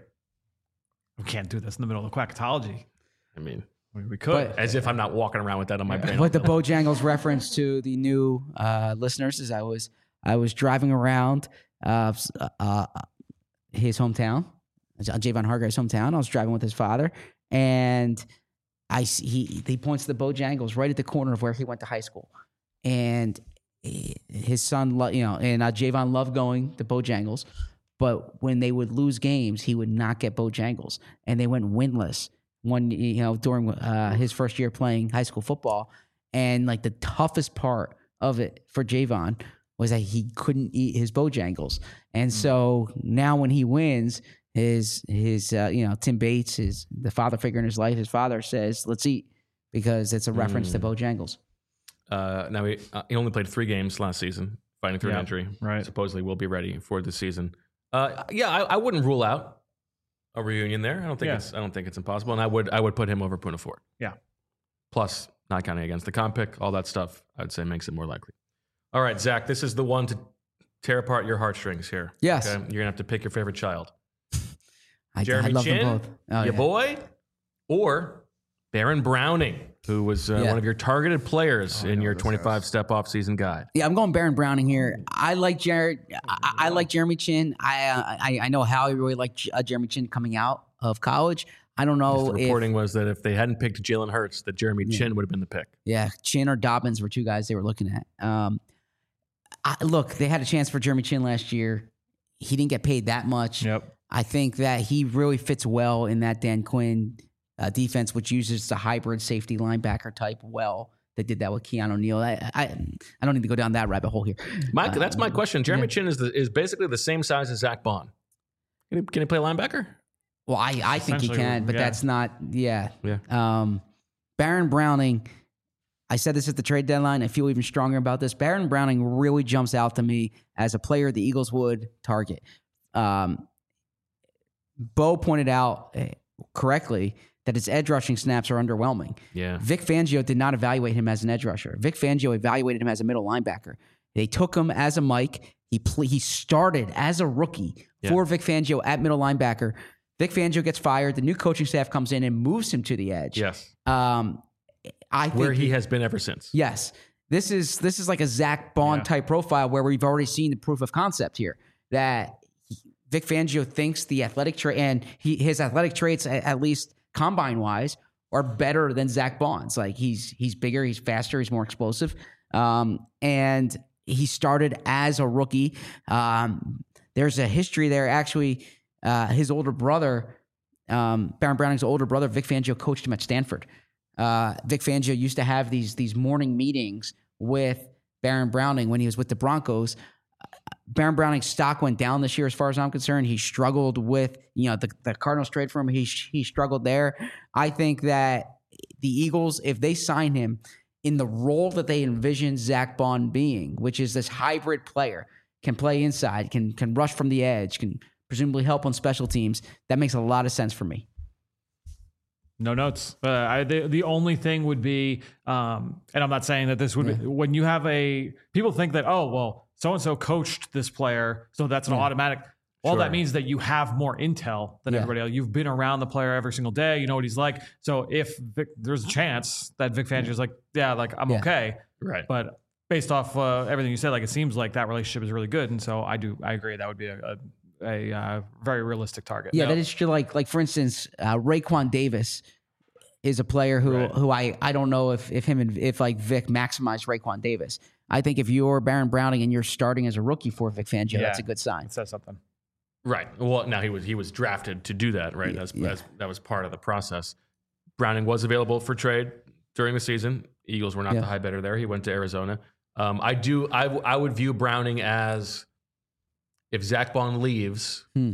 We can't do this in the middle of the quackatology.
I mean,
We, we could.
But-
as if I'm not walking around with that on my brain.
But the Bojangles reference to the new uh, listeners is I was I was driving around uh, s- uh, his hometown, Javon Hargrave's hometown. I was driving with his father, and I see, he he points to the Bojangles right at the corner of where he went to high school, and he- his son, lo- you know, and uh, Javon loved going to Bojangles, but when they would lose games, he would not get Bojangles, and they went winless. One, you know, during uh, his first year playing high school football. And like the toughest part of it for Javon was that he couldn't eat his Bojangles. And so now when he wins, his his uh, you know Tim Bates, his the father figure in his life, his father says, "Let's eat," because it's a reference mm. to Bojangles.
Uh, now he, uh, he only played three games last season, fighting through
yeah,
an injury.
Right.
Supposedly will be ready for the season. Uh, yeah, I, I wouldn't rule out a reunion there. I don't think
yeah.
it's I don't think it's impossible, and I would I would put him over Poona Ford.
Yeah.
Plus, not counting against the comp pick, all that stuff, I'd say makes it more likely. All right, Zach, this is the one to tear apart your heartstrings here.
Yes.
Okay? You're gonna have to pick your favorite child.
I,
Jeremy
I love
Chin,
them both. Oh,
your
yeah.
boy, or Baron Browning, who was uh,
Yeah.
one of your targeted players
Oh, I
in
know
your
this
twenty-five
is.
step off season guide.
Yeah, I'm going Baron Browning here. I like Jared. I, I like Jeremy Chin. I, uh, I I know Howie really liked uh, Jeremy Chin coming out of college. I don't know
The
if
reporting was that if they hadn't picked Jalen Hurts, that Jeremy
Yeah.
Chin would have been the pick.
yeah Chin or Dobbins were two guys they were looking at. Um, I, look, they had a chance for Jeremy Chin last year. He didn't get paid that much.
Yep.
I think that he really fits well in that Dan Quinn uh, defense, which uses the hybrid safety linebacker type well. They did that with Keanu Neal. I, I I don't need to go down that rabbit hole here.
My,
Uh,
that's my question. Jeremy
yeah.
Chin is the, is basically the same size as Zach Bond. Can he, can he play linebacker?
Well, I, I think he
Essentially,
can, but
yeah.
that's not, yeah.
Yeah.
Um, Baron Browning, I said this at the trade deadline. I feel even stronger about this. Baron Browning really jumps out to me as a player the Eagles would target. Um, Bo pointed out uh, correctly that his edge rushing snaps are underwhelming.
Yeah.
Vic Fangio did not evaluate him as an edge rusher. Vic Fangio evaluated him as a middle linebacker. They took him as a Mike. He pl- he started as a rookie
Yeah.
for Vic Fangio at middle linebacker. Vic Fangio gets fired. The new coaching staff comes in and moves him to the edge.
Yes.
Um, I think
Where he has been ever since.
yes, this is this is like a Zach Bond
Yeah.
type profile where we've already seen the proof of concept here that Vic Fangio thinks the athletic trait and he, his athletic traits, a- at least combine wise, are better than Zach Bond's. Like he's he's bigger, he's faster, he's more explosive, um, and he started as a rookie. Um, there's a history there. Actually, uh, his older brother, um, Baron Browning's older brother, Vic Fangio, coached him at Stanford. Uh, Vic Fangio used to have these these morning meetings with Baron Browning when he was with the Broncos. Baron Browning's stock went down this year, as far as I'm concerned. He struggled with, you know, the, the Cardinals trade for him. He he struggled there. I think that the Eagles, if they sign him in the role that they envision Zach Bond being, which is this hybrid player, can play inside, can can rush from the edge, can presumably help on special teams, that makes a lot of sense for me.
No notes. Uh, I, the, the only thing would be, um, and I'm not saying that this would
Yeah.
be, when you have a, people think that, oh, well, so-and-so coached this player, so that's an
Yeah.
automatic. Well,
Sure.
that means that you have more intel than
Yeah.
everybody else. You've been around the player every single day. You know what he's like. So if Vic, there's a chance that Vic Fangio is like, yeah, like I'm
Yeah.
okay.
Right.
But based off uh, everything you said, like it seems like that relationship is really good. And so I do, I agree. That would be a, a, a uh, very realistic target.
Yeah,
Now-
that is true. Like, like for instance, uh, Raekwon Davis is a player who
Right.
who I, I don't know if if him and if like Vic maximized Raekwon Davis. I think if you're Baron Browning and you're starting as a rookie for Vic Fangio,
Yeah.
that's a good sign.
It says something.
Right. Well, now he was he was drafted to do that, right?
Yeah,
That's,
yeah.
that's that was part of the process. Browning was available for trade during the season. Eagles were not
Yeah.
the high bidder there. He went to Arizona. Um, I do. I, w- I would view Browning as if Zach Bond leaves,
Hmm.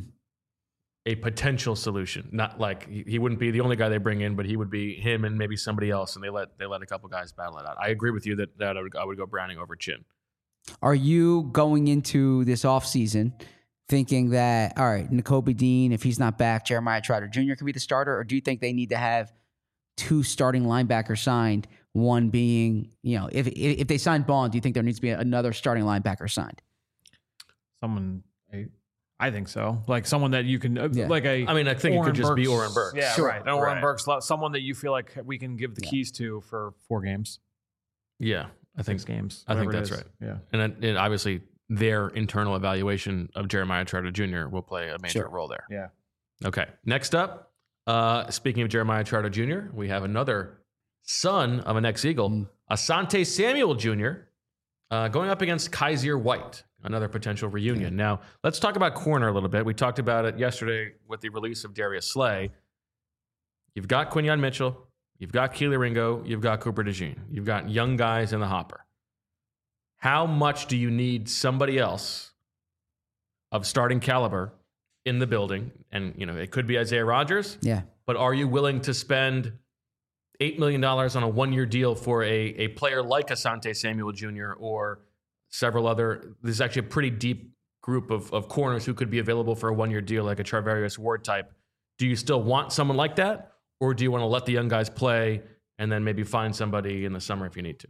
a potential solution. Not like he, he wouldn't be the only guy they bring in, but he would be him and maybe somebody else. And they let they let a couple guys battle it out. I agree with you that, that I would I would go Browning over Chin.
Are you going into this offseason thinking that, all right, Nakobe Dean, if he's not back, Jeremiah Trotter Junior could be the starter? Or do you think they need to have two starting linebackers signed, one being, you know, if if, if they sign Bond, do you think there needs to be another starting linebacker signed?
Someone, I, I think so. Like someone that you can, uh,
Yeah.
like a.
I mean, I think it could just be
Burks.
Oren Burks.
Yeah,
Sure.
right. And Oren
Right.
Burks, lo- someone that you feel like we can give the
Yeah.
keys to for four games,
Yeah, I think
six games.
I think
whatever it
that's
is.
right.
Yeah.
And, then- and obviously, their internal evaluation of Jeremiah Trotter Junior will play a major
Sure.
role there.
Yeah.
Okay. Next up, uh, speaking of Jeremiah Trotter Junior, we have another son of an ex-Eagle,
Mm.
Asante Samuel Junior, uh, going up against Kaiser White, another potential reunion. Now, let's talk about corner a little bit. We talked about it yesterday with the release of Darius Slay. You've got Quinyon Mitchell. You've got Keely Ringo. You've got Cooper DeJean. You've got young guys in the hopper. How much do you need somebody else of starting caliber in the building, and you know it could be Isaiah Rodgers.
Yeah.
But are you willing to spend eight million dollars on a one-year deal for a, a player like Asante Samuel Junior or several other? There's actually a pretty deep group of, of corners who could be available for a one-year deal, like a Charvarius Ward type. Do you still want someone like that, or do you want to let the young guys play and then maybe find somebody in the summer if you need to?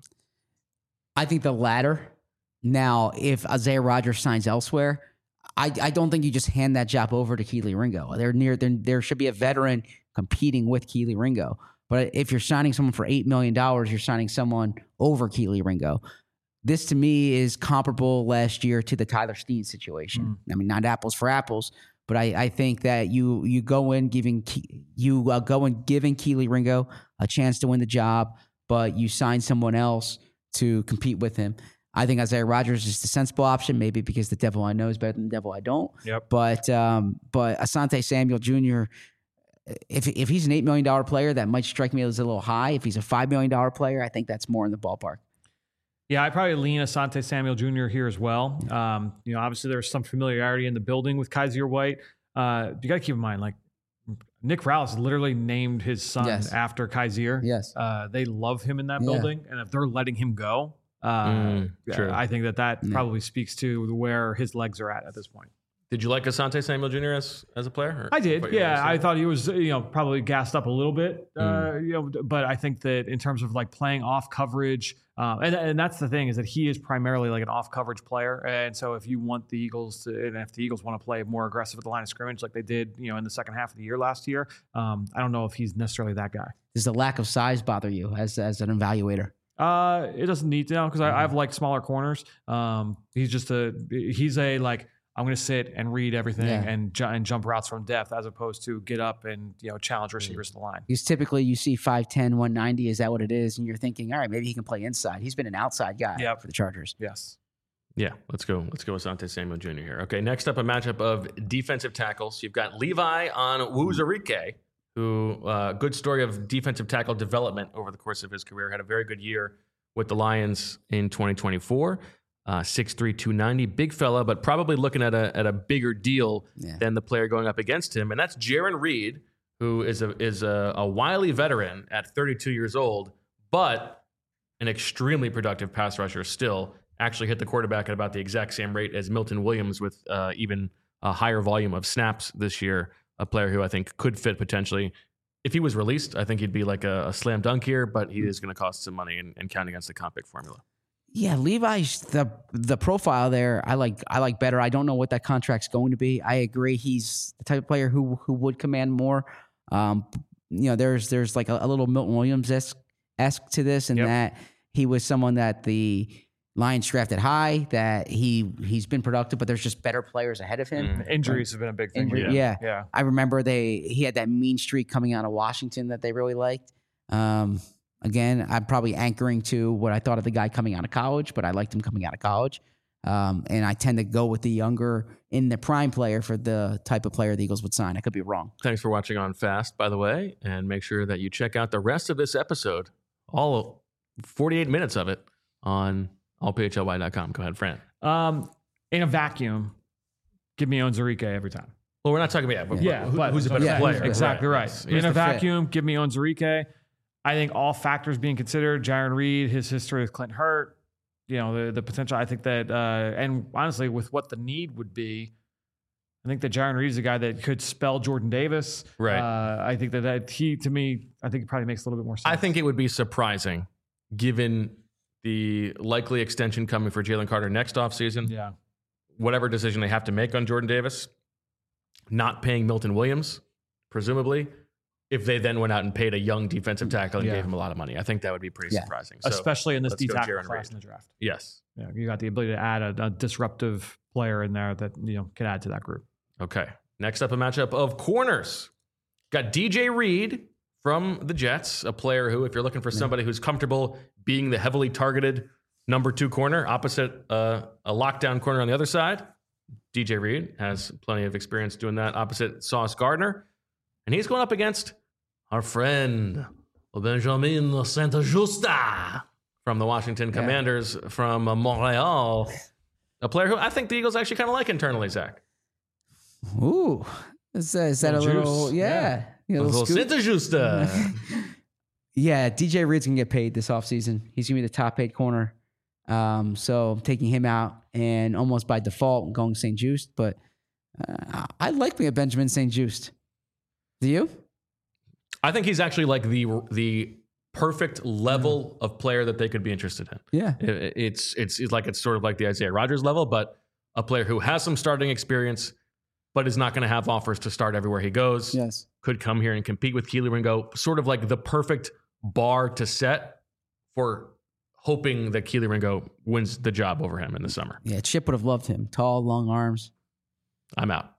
I think the latter. Now, if Isaiah Rodgers signs elsewhere, I, I don't think you just hand that job over to Kelee Ringo. They're near. They're, there should be a veteran competing with Kelee Ringo. But if you're signing someone for eight million dollars, you're signing someone over Kelee Ringo. This, to me, is comparable last year to the Tyler Steen situation. Mm. I mean, not apples for apples, but I, I think that you you go in giving you uh, go in giving Kelee Ringo a chance to win the job, but you sign someone else to compete with him. I think Isaiah Rodgers is the sensible option, maybe because the devil I know is better than the devil I don't.
Yep.
But um, but Asante Samuel Junior, if if he's an eight million dollars player, that might strike me as a little high. If he's a five million dollars player, I think that's more in the ballpark.
Yeah, I probably lean Asante Samuel Junior here as well. Um, you know, obviously there's some familiarity in the building with Kyzir White. Uh, you got to keep in mind, like Nick Rallis literally named his son
yes.
after Kyzir.
Yes,
uh, they love him in that
yeah.
building, and if they're letting him go, uh,
mm,
I think that that
yeah.
probably speaks to where his legs are at at this point.
Did you like Asante Samuel Junior as as a player? Or
I did. Yeah, I thought he was, you know, probably gassed up a little bit. Uh,
Mm.
you know, but I think that in terms of like playing off coverage, um, and and that's the thing is that he is primarily like an off coverage player. And so if you want the Eagles to, and if the Eagles want to play more aggressive at the line of scrimmage like they did, you know, in the second half of the year last year, um, I don't know if he's necessarily that guy.
Does the lack of size bother you as as an evaluator?
Uh, it doesn't need to, because mm-hmm. I've liked smaller corners. Um, he's just a he's a like. I'm going to sit and read everything
yeah.
and ju- and jump routes from depth as opposed to get up and, you know, challenge receivers to the line.
Because typically you see five ten, one ninety. Is that what it is? And you're thinking, all right, maybe he can play inside. He's been an outside guy
yep.
for the Chargers.
Yes.
Yeah, let's go. Let's go with Asante Samuel Junior here. Okay, next up, a matchup of defensive tackles. You've got Levi Onwuzurike, who, uh, good story of defensive tackle development over the course of his career. Had a very good year with the Lions in twenty twenty-four. Uh, six three, two ninety, big fella, but probably looking at a at a bigger deal
yeah.
than the player going up against him, and that's Jarran Reed, who is a is a, a wily veteran at thirty-two years old, but an extremely productive pass rusher still. Actually hit the quarterback at about the exact same rate as Milton Williams, with uh, even a higher volume of snaps this year. A player who I think could fit potentially. If he was released, I think he'd be like a, a slam dunk here, but he is going to cost some money and, and count against the comp pick formula.
Yeah, Levi's the the profile there. I like I like better. I don't know what that contract's going to be. I agree. He's the type of player who who would command more. Um, you know, there's there's like a, a little Milton Williams esque to this, and yep. that he was someone that the Lions drafted high. That he he's been productive, but there's just better players ahead of him.
Mm. Injuries have been a big thing.
Injury,
yeah.
yeah,
yeah.
I remember they he had that mean streak coming out of Washington that they really liked. Um, Again, I'm probably anchoring to what I thought of the guy coming out of college, but I liked him coming out of college. Um, and I tend to go with the younger in the prime player for the type of player the Eagles would sign. I could be wrong.
Thanks for watching On Fast, by the way, and make sure that you check out the rest of this episode, all forty-eight minutes of it, on all P H L Y dot com. Go ahead, Fran.
Um, in a vacuum, give me Onwuzurike every time.
Well, we're not talking about yeah,
yeah,
who,
but
who's a better
yeah,
player.
Exactly right.
right.
In a vacuum, fit. give me Onwuzurike. I think all factors being considered, Jarran Reed, his history with Clint Hurt, you know, the, the potential, I think that, uh, and honestly, with what the need would be, I think that Jarran Reed is a guy that could spell Jordan Davis.
Right.
Uh, I think that, that he, to me, I think it probably makes a little bit more sense.
I think it would be surprising, given the likely extension coming for Jalen Carter next offseason.
Yeah.
Whatever decision they have to make on Jordan Davis, not paying Milton Williams, presumably, if they then went out and paid a young defensive tackle and
yeah.
gave him a lot of money. I think that would be pretty
yeah.
surprising. So
especially in this D tackle
Jarran
class
Reed.
in the draft.
Yes.
Yeah, you got the ability to add a, a disruptive player in there that, you know, can add to that group.
Okay. Next up, a matchup of corners. Got D J Reed from the Jets, a player who, if you're looking for somebody who's comfortable being the heavily targeted number two corner opposite uh, a lockdown corner on the other side, D J Reed has plenty of experience doing that opposite Sauce Gardner. And he's going up against our friend Benjamin Saint-Juste from the Washington yeah. Commanders from uh, Montreal, a player who I think the Eagles actually kind of like internally, Zach.
Ooh, is, that- is that a
Little
little?
juice.
Yeah,
Yeah.
yeah,
A
a little
little
scoop.
Santa Justa.
Yeah, D J Reed's gonna get paid this offseason. He's gonna be the top paid corner. Um, so I'm taking him out, and almost by default, I'm going Saint Just. But uh, I like me a Benjamin Saint Just. Do you?
I think he's actually like the the perfect level of player that they could be interested in.
Yeah.
It- It's, it's it's like it's sort of like the Isaiah Rodgers level, but a player who has some starting experience, but is not going to have offers to start everywhere he goes.
Yes.
Could come here and compete with Keely Ringo, sort of like the perfect bar to set for hoping that Keely Ringo wins the job over him in the summer.
Yeah, Chip would have loved him. Tall, long arms.
I'm out.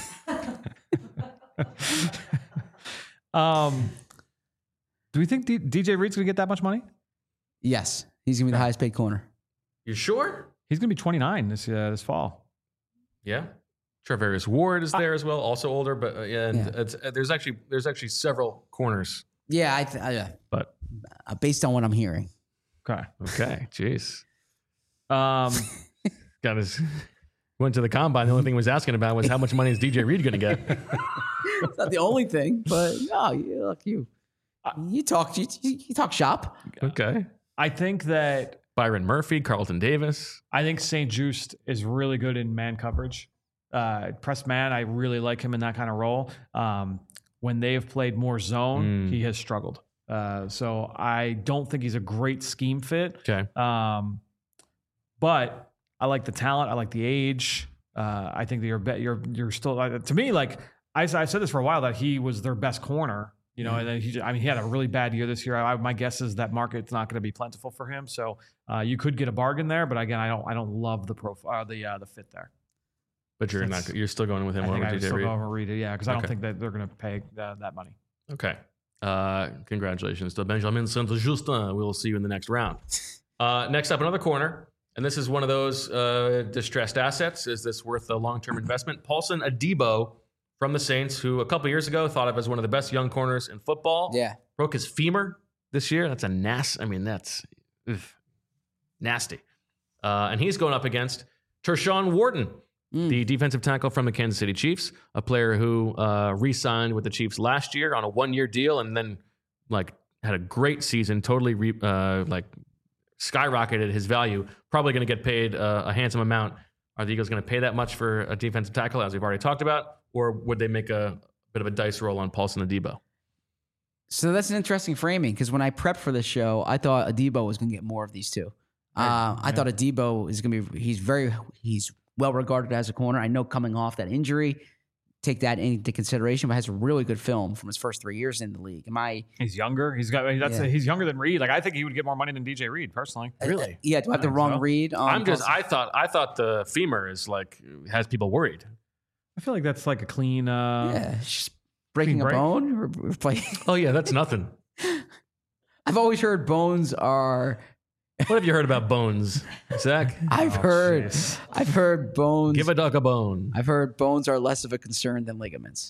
Um, do we think D- DJ Reed's gonna get that much money?
Yes, he's gonna be the highest paid corner.
You sure?
He's gonna be twenty-nine this uh, this fall.
Yeah. Travarius Ward is there as well, also older, but uh, yeah, and
Yeah.
It's, uh, there's actually there's actually several corners.
Yeah, I, th- I uh,
But
uh, based on what I'm hearing.
Okay.
okay, jeez,
Um,
got his went to the combine. The only thing he was asking about was how much money is D J Reed going to get?
It's not the only thing, but no, you, look, you, you talk, you, you talk shop.
Okay,
I think that
Byron Murphy, Carlton Davis.
I think Saint Just is really good in man coverage. Uh, press man, I really like him in that kind of role. Um, when they've played more zone,
Mm.
he has struggled. Uh, so I don't think he's a great scheme fit.
Okay,
Um, but I like the talent. I like the age. Uh, I think that you're be- you're you're still uh, to me like I I said this for a while that he was their best corner. You know, and then he I mean he had a really bad year this year. I, my guess is that market's not going to be plentiful for him. So uh, you could get a bargain there, but again, I don't I don't love the profile the uh, the fit there.
but you're
That's-
not. You're still going with him
I think
over
I
D
would
J
still
Reed.
go over Reed, yeah, because I don't
Okay.
think that they're going to pay uh, that money.
Okay. Uh, congratulations to Benjamin Saint-Justin. We will see you in the next round. Uh, next up, another corner. And this is one of those uh, distressed assets. Is this worth a long-term investment? Paulson Adebo from the Saints, who a couple years ago thought of as one of the best young corners in football.
Yeah.
Broke his femur this year. That's a nas. I mean, that's ugh, nasty. Uh, and he's going up against Tershawn Wharton,
Mm.
the defensive tackle from the Kansas City Chiefs, a player who uh, re-signed with the Chiefs last year on a one-year deal, and then like had a great season, totally re, uh, like skyrocketed his value. Probably going to get paid uh, a handsome amount. Are the Eagles going to pay that much for a defensive tackle, as we've already talked about, or would they make a bit of a dice roll on Paulson Adebo?
So that's an interesting framing because when I prepped for this show, I thought Adebo was going to get more of these two. Uh, I thought Adebo is going to be. He's very. He's well regarded as a corner. I know coming off that injury, take that into consideration, but has a really good film from his first three years in the league. Am I?
He's younger. He's got. That's
Yeah.
he's younger than Reed. Like I think he would get more money than D J Reed personally.
Really?
Yeah. Do I have the
think
wrong
so.
read? On
I'm just.
Paulson?
I thought. I thought the femur is like has people worried.
I feel like that's like a clean. Uh,
yeah. It's just breaking a
break.
bone. Or, or play.
Oh yeah, that's nothing.
I've always heard bones are.
What have you heard about bones, Zach?
I've
Oh,
heard.
jeez.
I've heard bones.
Give a dog a bone.
I've heard bones are less of a concern than ligaments.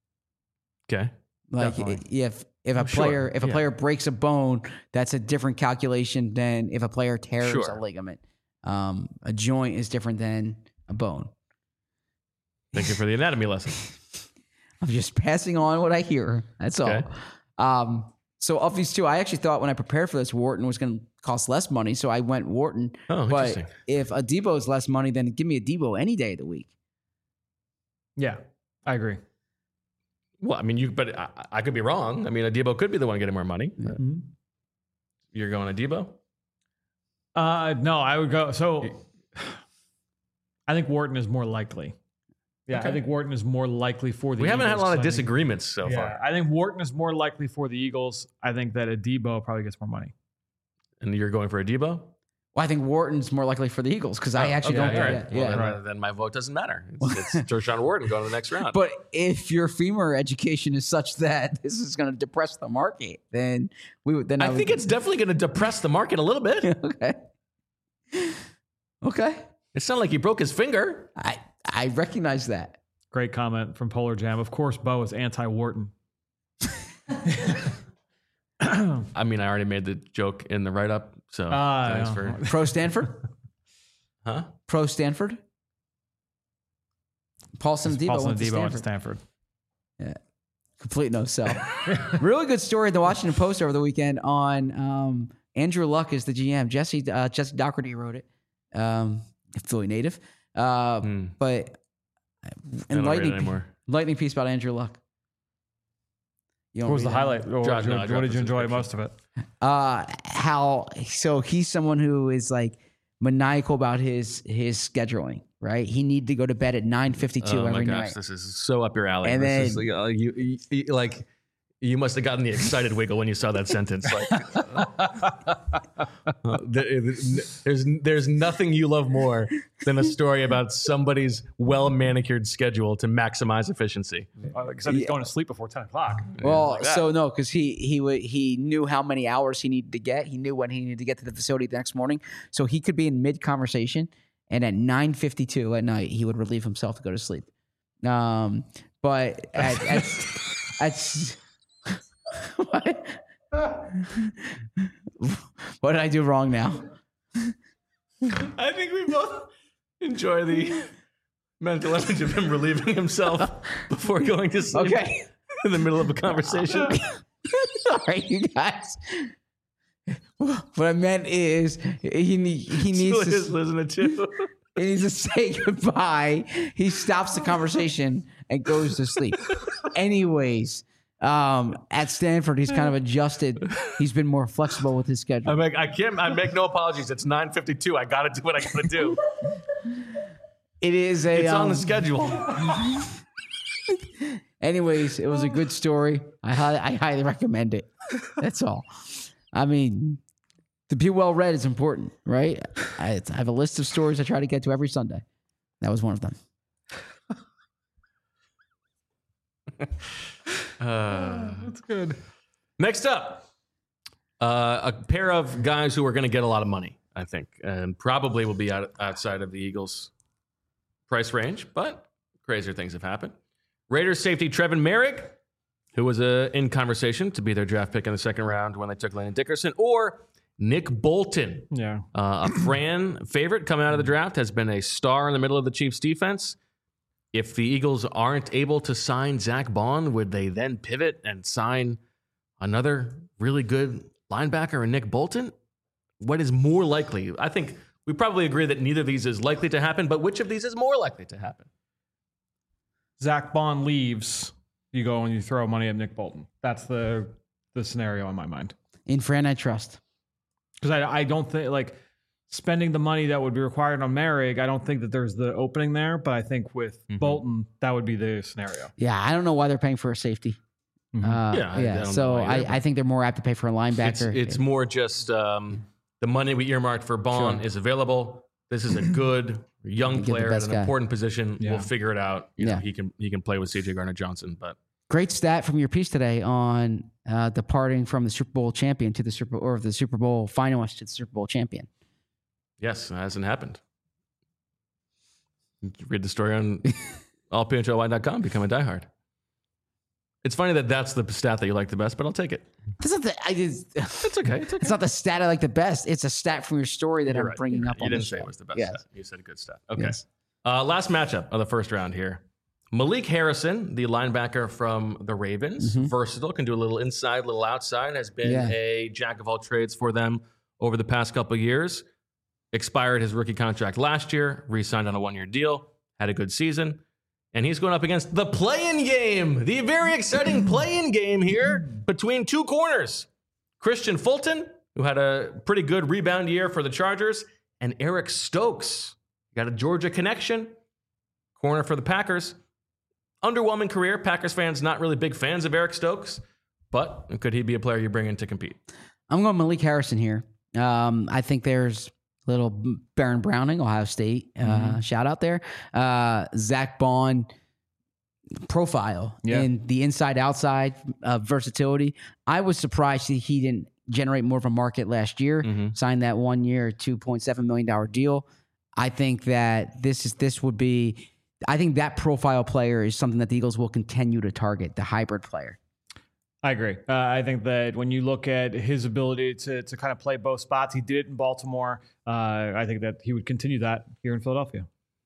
Okay.
Like
Definitely.
if if a
Oh, sure.
player if a
Yeah.
player breaks a bone, that's a different calculation than if a player tears
Sure.
a ligament. Um, a joint is different than a bone.
Thank you for the anatomy lesson.
I'm just passing on what I hear. That's
Okay.
all. Um, so of these two, I actually thought when I prepared for this, Wharton was going to cost less money, so I went Wharton.
Oh,
but
interesting.
if Adebo is less money, then give me Adebo any day of the week.
Yeah, I agree.
Well, I mean, you, but I, I could be wrong. I mean, Adebo could be the one getting more money.
Mm-hmm.
You're going Adebo?
Uh, no, I would go. So I think Wharton is more likely. Yeah,
Okay.
I think Wharton is more likely for the
We haven't had a
Eagles.
lot of
I think-
disagreements so
Yeah,
far.
I think Wharton is more likely for the Eagles. I think that Adebo probably gets more money.
And you're going for Adebo?
Well, I think Wharton's more likely for the Eagles because I
Oh,
actually
okay,
don't.
all
Yeah,
right.
yeah.
Well, then,
Right.
uh, then my vote doesn't matter. It's, it's Tershawn Wharton going to the next round.
But if your femur education is such that this is going to depress the market, then we would. Then I,
I
would,
think it's definitely going to depress the market a little bit.
okay. Okay,
It sounded like he broke his finger.
I I recognize that.
Great comment from Polar Jam. Of course, Bo is anti-Wharton.
I mean, I already made the joke in the write-up, so
Ah,
thanks
yeah.
for...
Pro Stanford.
Huh?
Pro Stanford. Paulson Adebo
Paulson
went to
Adebo went to
Stanford.
Stanford.
Yeah. Complete no sell. Really good story in the Washington Post over the weekend on um, Andrew Luck is the G M. Jesse uh, Jesse Doherty wrote it. Um, Philly native. Uh,
Hmm.
But
I don't read it
enlightening,
anymore.
enlightening piece about Andrew Luck. You don't
What was
read
the
that?
highlight? Or
Drop-
what,
no, I
what
dropped
did
the
you enjoy
subscription.
most of it?
Uh, how so he's someone who is like maniacal about his his scheduling, right? He needed to go to bed at nine fifty-two
Oh my
every
gosh,
night.
this is so up your alley.
And
this
then-
is, uh, you, you, you- like you must have gotten the excited wiggle when you saw that sentence. Like, uh, there- there's there's nothing you love more than a story about somebody's well manicured schedule to maximize efficiency.
Uh, Except he's going to sleep before ten o'clock.
Well,
like that.
so no, because he he would he knew how many hours he needed to get. He knew when he needed to get to the facility the next morning, so he could be in mid conversation, and at nine fifty two at night he would relieve himself to go to sleep. Um, but at at, at what? What did I do wrong now?
I think we both enjoy the mental image of him relieving himself before going to sleep
Okay,
in the middle of a conversation.
all right, you guys. What I meant is he ne- he needs to.
Julia's listening to.
He needs to say goodbye. He stops the conversation and goes to sleep. Anyways, um, at Stanford, he's kind of adjusted. He's been more flexible with his
I
schedule.
make I can't I make no apologies. It's nine fifty-two. I gotta do what I gotta do.
It is a.
It's on
um,
the schedule.
Anyways, it was a good story. I hi- I highly recommend it. That's all. I mean, to be well read is important, right? I, I have a list of stories I try to get to every Sunday. That was one of them.
Uh,
That's good.
next up, uh, a pair of guys who are going to get a lot of money, I think, and probably will be out, outside of the Eagles' price range, but crazier things have happened. Raiders safety Trevin Merrick, who was uh, in conversation to be their draft pick in the second round when they took Landon Dickerson, or Nick Bolton,
Yeah.
uh, a Fran favorite coming out of the draft, has been a star in the middle of the Chiefs' defense. If the Eagles aren't able to sign Zach Bond, would they then pivot and sign another really good linebacker in Nick Bolton? What is more likely? I think we probably agree that neither of these is likely to happen, but which of these is more likely to happen?
Zach Bond leaves. You go and you throw money at Nick Bolton. That's the the scenario in my mind.
In Fran, I trust.
Because I, I don't think, like, spending the money that would be required on Merrick, I don't think that there's the opening there. But I think with
Mhm.
Bolton, that would be the scenario.
Yeah, I don't know why they're paying for a safety.
Mhm.
Uh,
Yeah, I-
yeah.
I don't know
so
why
I,
either,
I think they're more apt to pay for a
It's,
linebacker.
it's more just um, the money we earmarked for Bond
Sure.
is available. This is a good young
Get the
player at
best
an
guy.
important position.
Yeah.
We'll figure it out. You know,
Yeah.
he can he can play with C J Gardner-Johnson, but
Great stat from your piece today on uh, departing from the Super Bowl champion to the Super or the Super Bowl finalist to the Super Bowl champion.
yes, it hasn't happened. You can read the story on all p h l y dot com. Become a diehard. It's funny that that's the stat that you like the best, but I'll take it.
That's not the, I just,
It's okay. It's okay.
it's not the stat I like the best. It's a stat from your story that
You're
I'm
right,
bringing
you're
up
right.
on
You
the
didn't say
show.
it was the best
Yes.
stat. You said a good stat. Okay.
Yes.
Uh, last matchup of the first round here. Malik Harrison, the linebacker from the Ravens, versatile, can do a little inside, little outside, has been
Mm-hmm. Yeah.
a jack of all trades for them over the past couple of years. Expired his rookie contract last year, re-signed on a one-year deal, had a good season, and he's going up against the play-in game, the very exciting play-in game here between two corners. Christian Fulton, who had a pretty good rebound year for the Chargers, and Eric Stokes. Got a Georgia connection, corner for the Packers. Underwhelming career. Packers fans not really big fans of Eric Stokes, but could he be a player you bring in to compete?
I'm going Malik Harrison here. Um, I think there's a little Baron Browning, Ohio State uh,
Mhm.
shout out there. Uh, Zach Bond profile
Yeah.
in the inside outside uh, versatility. I was surprised that he didn't generate more of a market last year.
Mhm.
Signed that one year two point seven million dollars deal. I think that this is this would be. I think that profile player is something that the Eagles will continue to target, the hybrid player.
I agree. Uh, I think that when you look at his ability to to kind of play both spots, he did it in Baltimore. Uh, I think that he would continue that here in Philadelphia.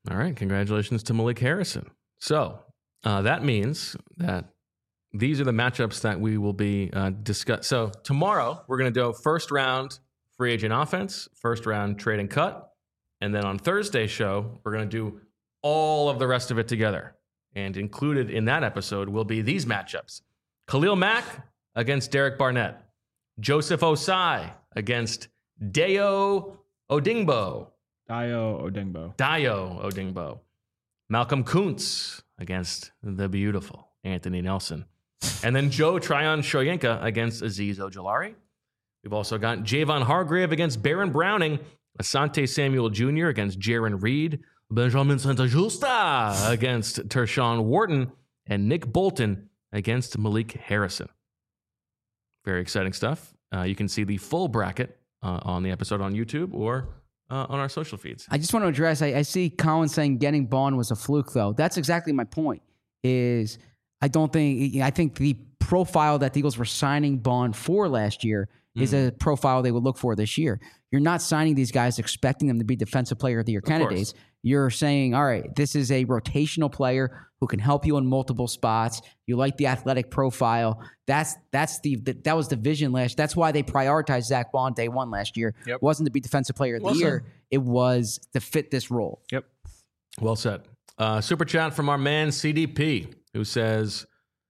All right. Congratulations to Malik Harrison. So uh, that means that these are the matchups that we will be uh, discuss. So tomorrow we're going to do first round free agent offense, first round trade and cut. And then on Thursday's show, we're going to do all of the rest of it together. And included in that episode will be these matchups. Khalil Mack against Derek Barnett. Joseph Osai against Dayo Odingbo.
Dayo Odingbo.
Dayo Odingbo. Malcolm Kuntz against the beautiful Anthony Nelson. And then Joe Tryon Shoyinka against Azeez Ojulari. We've also got Javon Hargrave against Baron Browning. Asante Samuel Junior against Jaron Reed. Benjamin Santa-Justa against Tershawn Wharton. And Nick Bolton against Malik Harrison. Very exciting stuff. Uh, you can see the full bracket uh, on the episode on YouTube or uh, on our social feeds.
I just want to address, I, I see Colin saying getting Bond was a fluke, though. That's exactly my point, is I don't think, I think the profile that the Eagles were signing Bond for last year mm. is a profile they would look for this year. You're not signing these guys expecting them to be defensive player of the year candidates. You're saying, all right, this is a rotational player who can help you in multiple spots. You like the athletic profile. That's that's the, the that was the vision last. That's why they prioritized Zach Bond day one last year.
Yep.
It wasn't to be defensive player of the
Well
year.
said.
It was to fit this role.
Yep.
Well said. Uh, super chat from our man C D P, who says,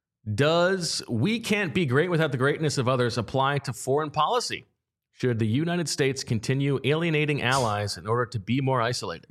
does we can't be great without the greatness of others apply to foreign policy? Should the United States continue alienating allies in order to be more isolated?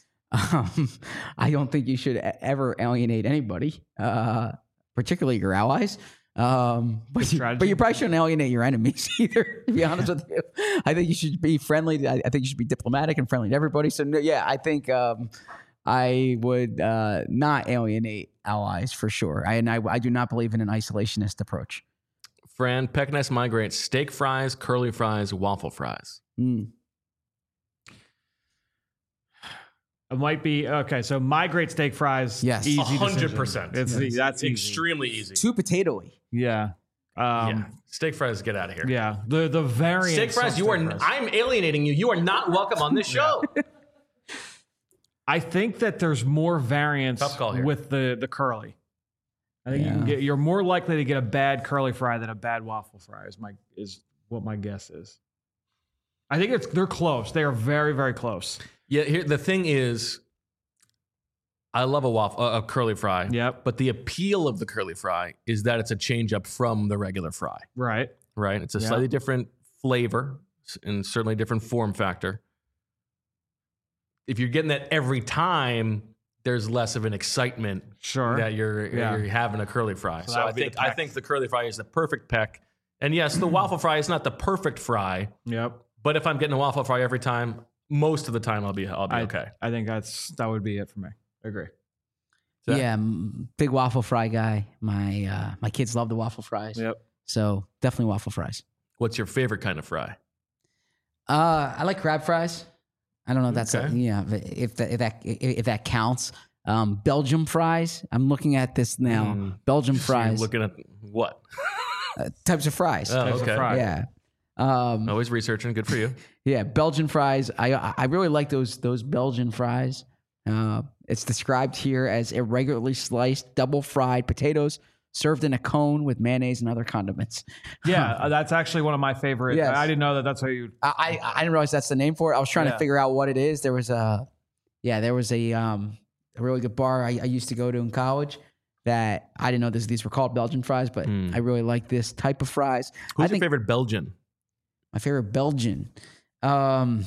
Um, I don't think you should e- ever alienate anybody, uh, particularly your allies. Um, but, you, but you probably shouldn't alienate your enemies either, to be honest with you. I think you should be friendly. I, I think you should be diplomatic and friendly to everybody. So, no, yeah, I think um, I would uh, not alienate allies for sure. I, and I, I do not believe in an isolationist approach.
Fran, Peckness migrates steak fries, curly fries, waffle fries.
Mm.
It might be okay. So migrate steak fries.
Yes.
easy
one hundred
decision.
percent.
It's
Yes.
that's easy.
Extremely easy.
Too potatoey.
Yeah.
yeah.
Um,
Steak fries, get out of here.
yeah. The the variant.
Steak fries, you are. I'm alienating you. You are not welcome on this show.
I think that there's more variance
Tough call here.
with the the curly. I think you
Yeah.
can get. You're more likely to get a bad curly fry than a bad waffle fry. Is my is what my guess is. I think it's they're close. They are very very close.
Yeah. Here, the thing is, I love a waffle, a curly fry.
Yep.
But the appeal of the curly fry is that it's a change up from the regular fry.
Right.
Right. It's a
Yeah.
slightly different flavor and certainly different form factor. If you're getting that every time, there's less of an excitement
Sure.
that you're
Yeah.
you're having a curly fry.
So
So,
that
I
would be
think
the
I
peck.
think the curly fry is the perfect peck. And yes, the waffle fry is not the perfect fry,
Yep.
but if I'm getting a waffle fry every time, most of the time I'll be I'll be
I,
okay.
I think that's that would be it for me. I agree.
So-
Yeah, m- big waffle fry guy. My uh, my kids love the waffle fries.
Yep.
So definitely waffle fries.
What's your favorite kind of fry?
Uh, I like crab fries. I don't know if that's
Okay.
a, yeah if that if that if that counts. Um, Belgium fries. I'm looking at this now.
Mm.
Belgium
So you're
fries.
looking at what?
uh, types of fries.
Oh,
Types of
okay.
fry.
Yeah. Um,
Always researching. Good for you.
Yeah, Belgian fries. I I really like those those Belgian fries. Uh, it's described here as irregularly sliced, double fried potatoes served in a cone with mayonnaise and other condiments.
Yeah, uh, that's actually one of my favorite.
Yes.
I didn't know that. That's how you.
I, I I didn't realize that's the name for it. I was trying
Yeah.
to figure out what it is. There was a yeah, there was a um a really good bar I, I used to go to in college that I didn't know this, these were called Belgian fries, but
Hmm.
I really like this type of fries.
Who's
I
your
think
favorite Belgian?
my favorite Belgian. Um,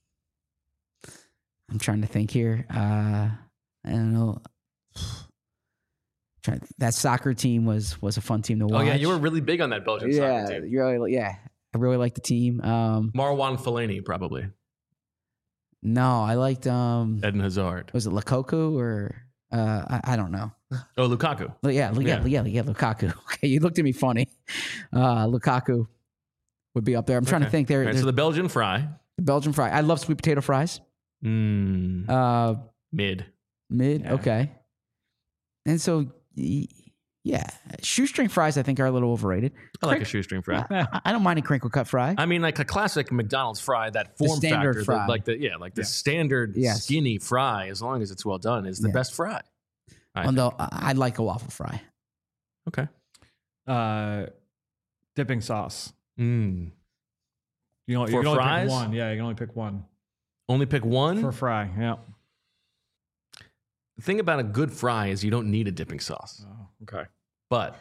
I'm trying to think here. Uh, I don't know. Trying, that soccer team was was a fun team to
Oh
watch.
yeah, you were really big on that Belgian
yeah,
soccer team.
you really, yeah. I really like the team. Um,
Marwan Fellaini, probably.
no, I liked um,
Eden Hazard.
was it Lukaku or uh, I, I don't know.
Oh, Lukaku.
But yeah, yeah,
Yeah.
yeah, yeah, Lukaku. Okay, you looked at me funny. Uh, Lukaku would be up there. I'm trying to
Okay.
think. There,
All right, so the Belgian fry.
Belgian fry. I love sweet potato fries.
Mm,
Uh,
mid.
mid.
Yeah.
Okay. And so, y- Yeah, shoestring fries I think are a little overrated.
I like a shoestring fry.
I, I don't mind a crinkle cut fry.
I mean, like a classic McDonald's fry, that form
standard
factor,
fry.
the, like the yeah, like the
Yes.
standard
Yes.
skinny fry, as long as it's well done, is the
Yeah.
best fry. I
Although I, I like a waffle fry.
Okay.
Uh, dipping sauce.
Mm.
You know, you
For
can only
fries?
pick one. Yeah, you can only pick one
Only pick one.
for fry. Yeah.
The thing about a good fry is you don't need a dipping sauce.
Oh, okay.
But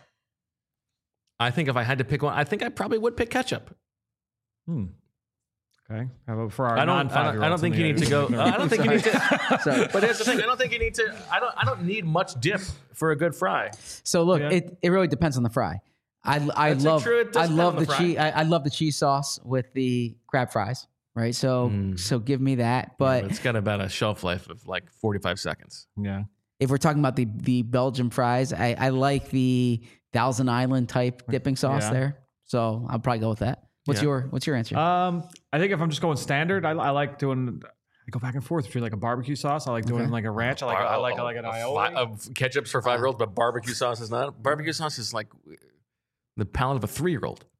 I think if I had to pick one, I think I probably would pick ketchup.
Hmm. Okay. How about for our
I don't. I don't, I don't think you need to go. I don't think you need to.
So,
But here's the thing: I don't think you need to. I don't. I don't need much dip for a good fry.
so look,
Yeah.
it, it really depends on the fry. I, I
That's
love
true. It does
I
depend
love
on the
the,
fry.
cheese I, I love the cheese sauce with the crab fries. Right. So
Mm.
so give me that. But
it's got about a shelf life of like forty-five seconds.
Yeah.
if we're talking about the the Belgian fries, I, I like the Thousand Island type dipping sauce
Yeah.
there. So I'll probably go with that. What's
Yeah.
your What's your answer?
Um, I think if I'm just going standard, I, I like doing. I go back and forth between like a barbecue sauce. I like doing
Okay.
like a ranch. I like I like I like an
A
aioli.
fi- of ketchups for five year olds, but barbecue sauce is not. Barbecue sauce is like the palate of a three year old.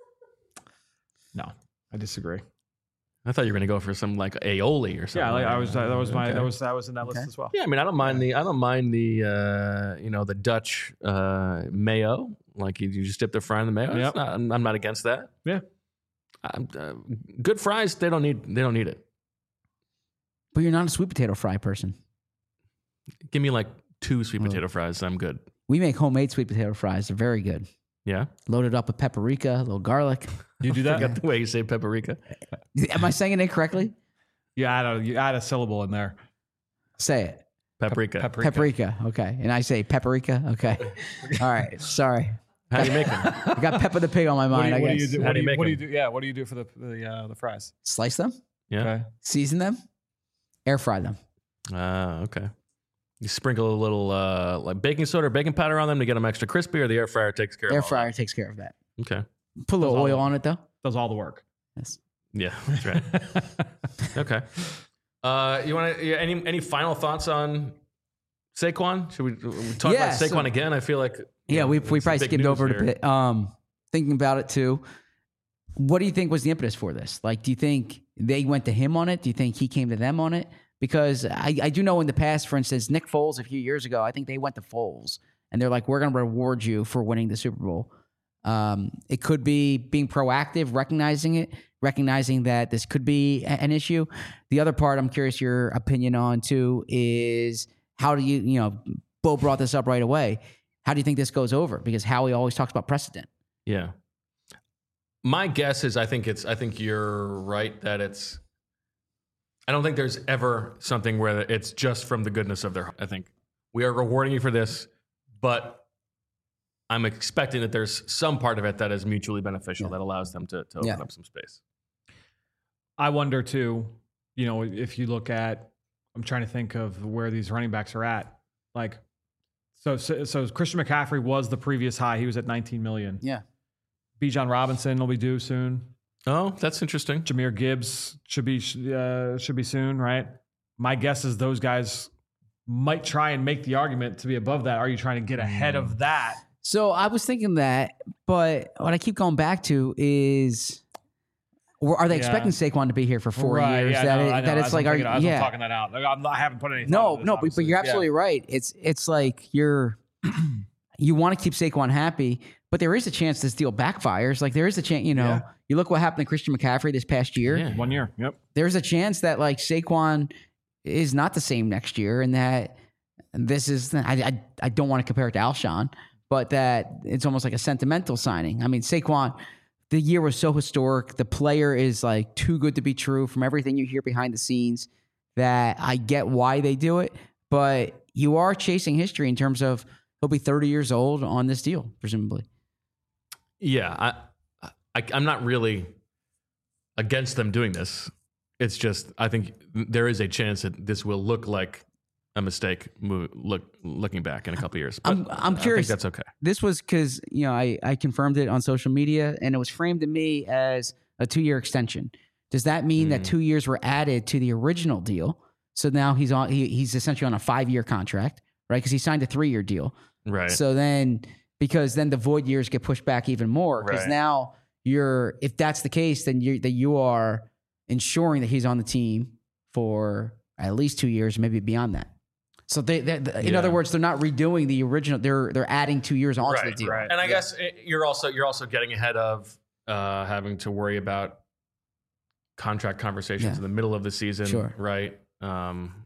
No, I disagree.
I thought you were gonna go for some like aioli or something.
Yeah, like, I was that was my
Okay.
that was that was in that
Okay.
list as well.
Yeah, I mean, I don't mind the I don't mind the uh, you know the Dutch uh, mayo. Like you, you just dip the fry in the mayo. It's
Yep.
not- I'm, I'm not against that.
Yeah.
Um, uh, good fries, they don't need they don't need it.
but you're not a sweet potato fry person.
Give me like two sweet
Oh.
potato fries. I'm good.
We make homemade sweet potato fries. They're very good.
Yeah.
Loaded up with paprika, a little garlic.
You do
I
that?
forgot the way you say paprika.
Am I saying it incorrectly?
You add a you add a syllable in there.
Say it.
Paprika.
Paprika.
Paprika. Okay. And I say paprika. Okay. All right. Sorry.
How do you make them?
I got Peppa the Pig on my
What do
mind,
you,
I
what do
guess.
you do?
How
What
do
do
you
you,
make
what do you
them?
do? Yeah, what do you do for the the uh, the fries?
Slice them,
Yeah.
Okay.
season them, air fry them.
Ah, okay. You sprinkle a little uh, like baking soda or baking powder on them to get them extra crispy, or the air fryer takes care of
Air
all
fryer takes care of that.
that? Okay.
Put a little
Does all
oil
of
on it, though.
Does all the work.
Yes.
Yeah, that's right. Okay. Uh, you want to? Yeah, any any final thoughts on Saquon? Should we, we talk
Yeah,
about Saquon
so-
again? I feel like you
Yeah,
know,
we
it's
we
some
probably
big
skimmed
news
over it a
here.
bit. Um, thinking about it too. What do you think was the impetus for this? Like, do you think they went to him on it? Do you think he came to them on it? Because I, I do know in the past, for instance, Nick Foles a few years ago, I think they went to Foles and they're like, we're going to reward you for winning the Super Bowl. Um, it could be being proactive, recognizing it, recognizing that this could be a- an issue. The other part I'm curious your opinion on too is how do you, you know, Bo brought this up right away. How do you think this goes over? Because Howie always talks about precedent.
Yeah. My guess is I think it's I think you're right that it's I don't think there's ever something where it's just from the goodness of their heart. I think we are rewarding you for this, but I'm expecting that there's some part of it that is mutually beneficial
Yeah.
that allows them to, to open
Yeah.
up some space.
I wonder too, you know, if you look at, I'm trying to think of where these running backs are at. Like, so, so, so Christian McCaffrey was the previous high. He was at nineteen million.
Yeah.
Bijan Robinson will be due soon.
Oh, that's interesting.
Jahmyr Gibbs should be, uh, should be soon, right? My guess is those guys might try and make the argument to be above that. Are you trying to get ahead of that?
So I was thinking that, but what I keep going back to is, or are they
Yeah.
expecting Saquon to be here for four
Right,
years?
yeah,
that
no,
it-
I know.
that it's
As I'm
like, are
thinking-
you,
as I'm
yeah,
talking that out. Like, I'm not, I haven't put any. thought
no,
into this,
no, but, but
obviously.
you're
Yeah.
absolutely right. It's it's like you're you want to keep Saquon happy, but there is a chance this deal backfires. Like there is a chance, you know,
Yeah.
you look what happened to Christian McCaffrey this past year.
Yeah.
One year. Yep.
There's a chance that like Saquon is not the same next year, and that this is I I, I don't want to compare it to Alshon, but that it's almost like a sentimental signing. I mean, Saquon, the year was so historic. The player is like too good to be true from everything you hear behind the scenes. That I get why they do it, but you are chasing history in terms of he'll be thirty years old on this deal, presumably.
Yeah, I, I I'm not really against them doing this. It's just I think there is a chance that this will look like a mistake. Move, look, looking back in a couple of years, but
I'm- I'm
I
curious.
think that's okay.
This was because you know I, I confirmed it on social media, and it was framed to me as a two year extension. Does that mean that
Mm.
two years were added to the original deal? So now he's on he, he's essentially on a five year contract, right? Because he signed a three year deal.
Right.
So then, because then the void years get pushed back even more. Because
Right.
now you're, if that's the case, then you that you are ensuring that he's on the team for at least two years, maybe beyond that. So they, they in
Yeah.
other words, they're not redoing the original. They're they're adding two years onto
Right,
the deal.
right.
And I guess it, you're also you're also getting ahead of uh, having to worry about contract conversations
Yeah.
in the middle of the season,
Sure.
right? Um,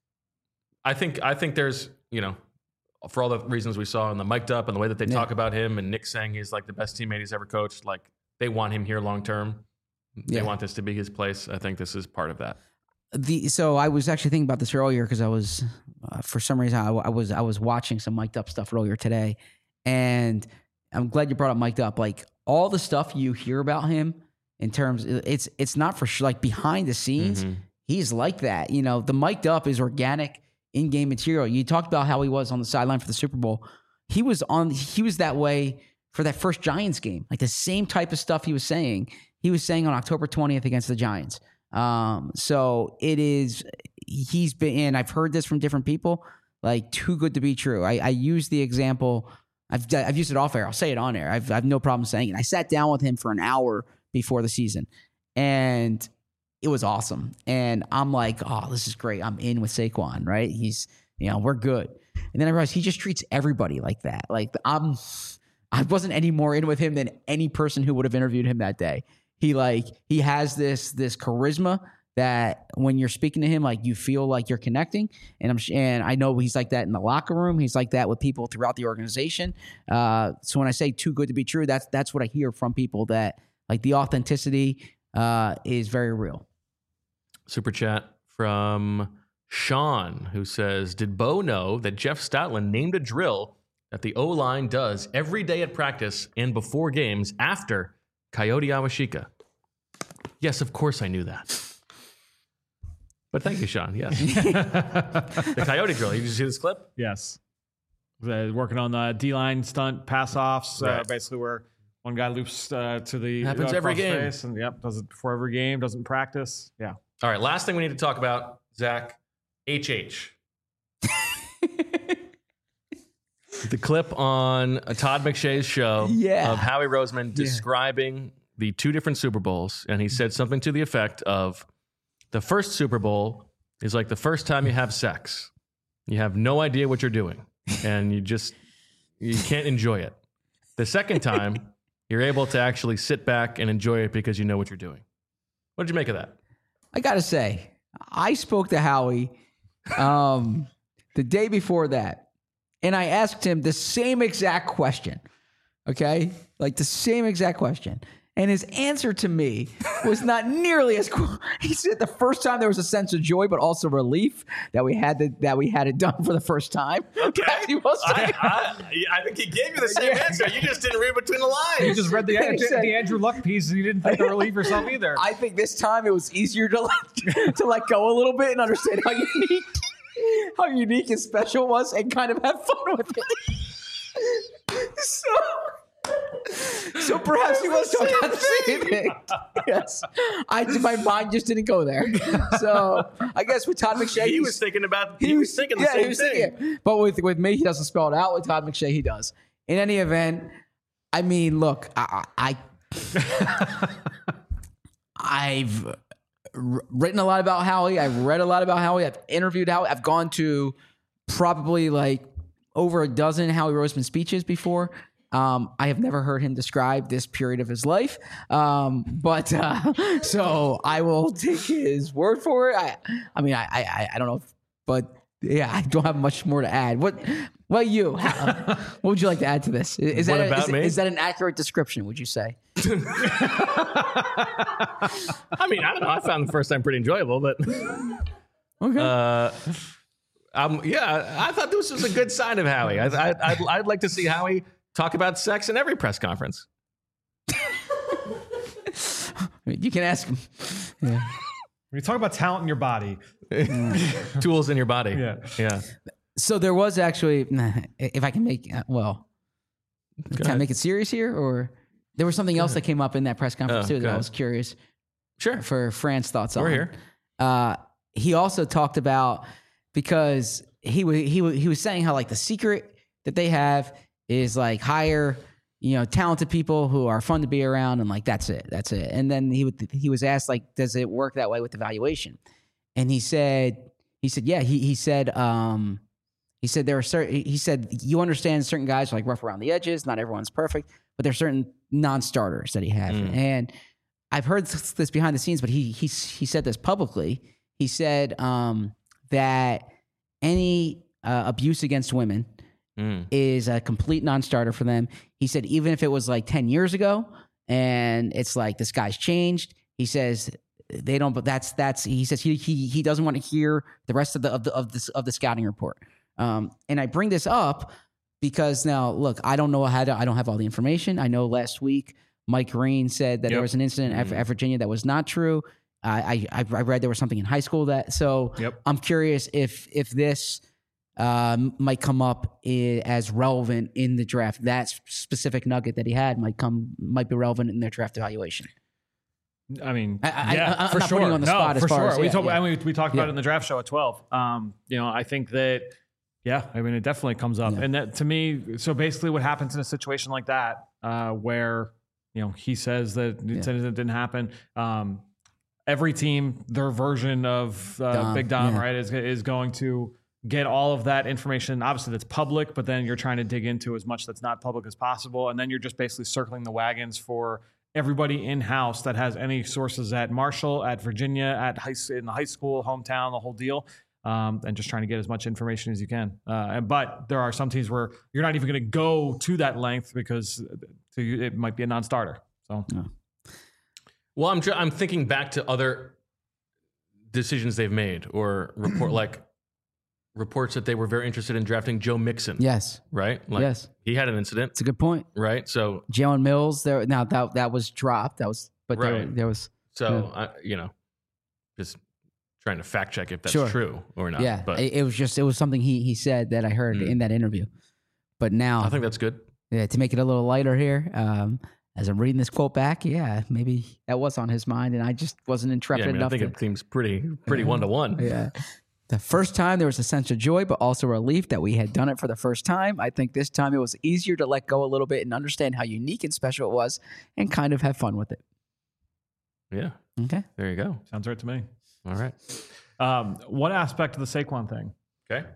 I think I think there's you know for all the reasons we saw in the mic'd up and the way that they
Yeah.
talk about him and Nick saying he's like the best teammate he's ever coached, like they want him here long term. They
Yeah.
want this to be his place. I think this is part of that.
The so I was actually thinking about this earlier because I was uh, for some reason I, I was I was watching some mic'd up stuff earlier today, and I'm glad you brought up mic'd up. Like all the stuff you hear about him in terms, it's it's not for sure. Like behind the scenes,
Mhm.
he's like that. You know, the mic'd up is organic in-game material. You talked about how he was on the sideline for the Super Bowl. He was on. He was that way for that first Giants game. Like the same type of stuff he was saying. He was saying on October twentieth against the Giants. Um, so it is, he's been, and I've heard this from different people, like too good to be true. I, I use the example, I've, I've used it off air. I'll say it on air. I've, I've no problem saying it. I sat down with him for an hour before the season and it was awesome. And I'm like, oh, this is great. I'm in with Saquon, right? He's, you know, we're good. And then I realized he just treats everybody like that. Like I'm, I wasn't any more in with him than any person who would have interviewed him that day. He like he has this this charisma that when you're speaking to him, like you feel like you're connecting. And I'm and I know he's like that in the locker room. He's like that with people throughout the organization. Uh, so when I say too good to be true, that's that's what I hear from people, that like the authenticity uh, is very real.
Super chat from Sean, who says, did Bo know that Jeff Stoutland named a drill that the O-line does every day at practice and before games after Coyote Awashika? Yes, of course I knew that. But thank you, Sean. Yes. The Coyote drill. Did you see this clip?
Yes. Uh, working on the D-line stunt pass-offs, uh,
Right.
basically where one guy loops uh, to the
Happens
uh,
every
across the
game.
face and yep, does it before every game, doesn't practice. Yeah.
All right, last thing we need to talk about, Zach, H H. The clip on uh, Todd McShay's show
Yeah.
of Howie Roseman describing the two different Super Bowls, and he said something to the effect of, the first Super Bowl is like the first time you have sex. You have no idea what you're doing, and you just you can't enjoy it. The second time, you're able to actually sit back and enjoy it because you know what you're doing. What did you make of that?
I gotta say, I spoke to Howie um, the day before that, and I asked him the same exact question. Okay, like the same exact question. And his answer to me was not nearly as cool. He said the first time there was a sense of joy, but also relief that we had the, that we had it done for the first time.
Okay.
He was saying.
I, I, I think he gave you the same answer. You just didn't read between the
You
lines.
just read the,
He said-
the Andrew Luck piece and you didn't think to relieve yourself either.
I think this time it was easier to let, to let go a little bit and understand how unique, how unique and special it was, and kind of have fun with it. So, so perhaps he was talking about the same thing. Yes, I my mind just didn't go there. So I guess with Todd McShay,
he
he's-
was thinking about. He, was thinking the
yeah,
same
he was
thing.
thinking it. But with with me, he doesn't spell it out. With Todd McShay, he does. In any event, I mean, look, I, I I've r- written a lot about Howie. I've read a lot about Howie. I've interviewed Howie. I've gone to probably like over a dozen Howie Roseman speeches before. Um, I have never heard him describe this period of his life. Um, but uh, so I will take his word for it. I, I mean, I, I, I don't know, if, but yeah, I don't have much more to add. What, what you? How, what would you like to add to this? Is, is
What
that a-
about
is,
me?
is that an accurate description? Would you say?
I mean, I don't know. I found the first time pretty enjoyable, but
Okay.
uh, um, yeah, I thought this was a good sign of Howie. I, I, I'd, I'd like to see Howie talk about sex in every press conference.
You can ask him. Yeah.
When you talk about talent in your body,
Tools in your body.
Yeah.
Yeah.
So there was actually, if I can make, uh, well,
Go
can I
ahead.
make it serious here? Or there was something else that came up in that press conference
Oh,
too
go
that I
ahead.
was curious
Sure.
for Fran's thoughts on.
We're here.
Uh, he also talked about, because he was, he was, he was saying how like the secret that they have is like hire, you know, talented people who are fun to be around, and like that's it, that's it. And then he would, he was asked like, does it work that way with evaluation? And he said, he said, yeah. He he said, um, he said there are certain. He said you understand certain guys are like rough around the edges. Not everyone's perfect, but there's certain non-starters that he has.
Mm.
And I've heard this behind the scenes, but he he he said this publicly. He said um, that any uh, abuse against women mm. is a complete non-starter for them. He said even if it was like ten years ago and it's like this guy's changed, he says they don't. But that's that's he says he he he doesn't want to hear the rest of the of the of this of the scouting report. Um, and I bring this up because now look, I don't know how to. I don't have all the information. I know last week Mike Green said that yep. there was an incident mm. at, at Virginia that was not true. I, I I read there was something in high school that. So
yep.
I'm curious if if this um, might come up I- as relevant in the draft. That specific nugget that he had might come might be relevant in their draft evaluation.
I mean,
I,
yeah,
I, I'm
for
not
sure.
putting you on the
no,
spot as
for
far
sure.
as
we,
yeah,
talk,
yeah.
I mean, we talked about
yeah.
it in the draft show at twelve. Um, you know, I think that, yeah, I mean, it definitely comes up.
Yeah.
And that to me, so basically what happens in a situation like that, uh, where, you know, he says that
Yeah.
it didn't happen. Um, every team, their version of uh,
Dom,
Big Dom,
yeah.
right, is, is going to get all of that information. Obviously that's public, but then you're trying to dig into as much that's not public as possible. And then you're just basically circling the wagons for everybody in-house that has any sources at Marshall, at Virginia, at high, in the high school, hometown, the whole deal, um, and just trying to get as much information as you can. Uh, and, but there are some teams where you're not even going to go to that length because to you, it might be a non-starter. So,
No.
Well, I'm tr- I'm thinking back to other decisions they've made or report like reports that they were very interested in drafting Joe Mixon.
Yes.
Right? Like
Yes.
he had an incident,
It's a good point.
right? So
Jalen Mills, there now that that was dropped. That was, but there,
Right.
there was,
so I, you know, just trying to fact check if that's
Sure.
true or not.
yeah.
But
It, it was just it was something he he said that I heard
Mm.
in that interview. But now,
I think that's good.
yeah, to make it a little lighter here, um, as I'm reading this quote back, yeah, maybe that was on his mind, and I just wasn't
Yeah,
intrepid
I mean, I
enough
think
to.
it seems pretty pretty
Yeah.
one to one.
Yeah. The first time there was a sense of joy, but also relief that we had done it for the first time. I think this time it was easier to let go a little bit and understand how unique and special it was and kind of have fun with it.
Yeah.
Okay.
There you go.
sounds right to me.
All right.
Um, one aspect of the Saquon thing,
Okay.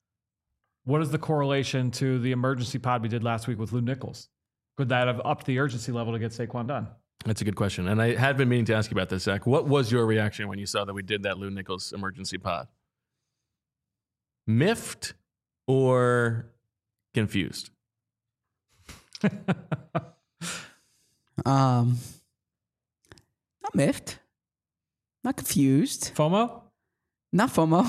what is the correlation to the emergency pod we did last week with Lou Nichols? Could that have upped the urgency level to get Saquon done?
That's a good question. And I had been meaning to ask you about this, Zach. What was your reaction when you saw that we did that Lou Nichols emergency pod? Miffed or confused?
Um, not miffed, not confused,
FOMO?
not FOMO.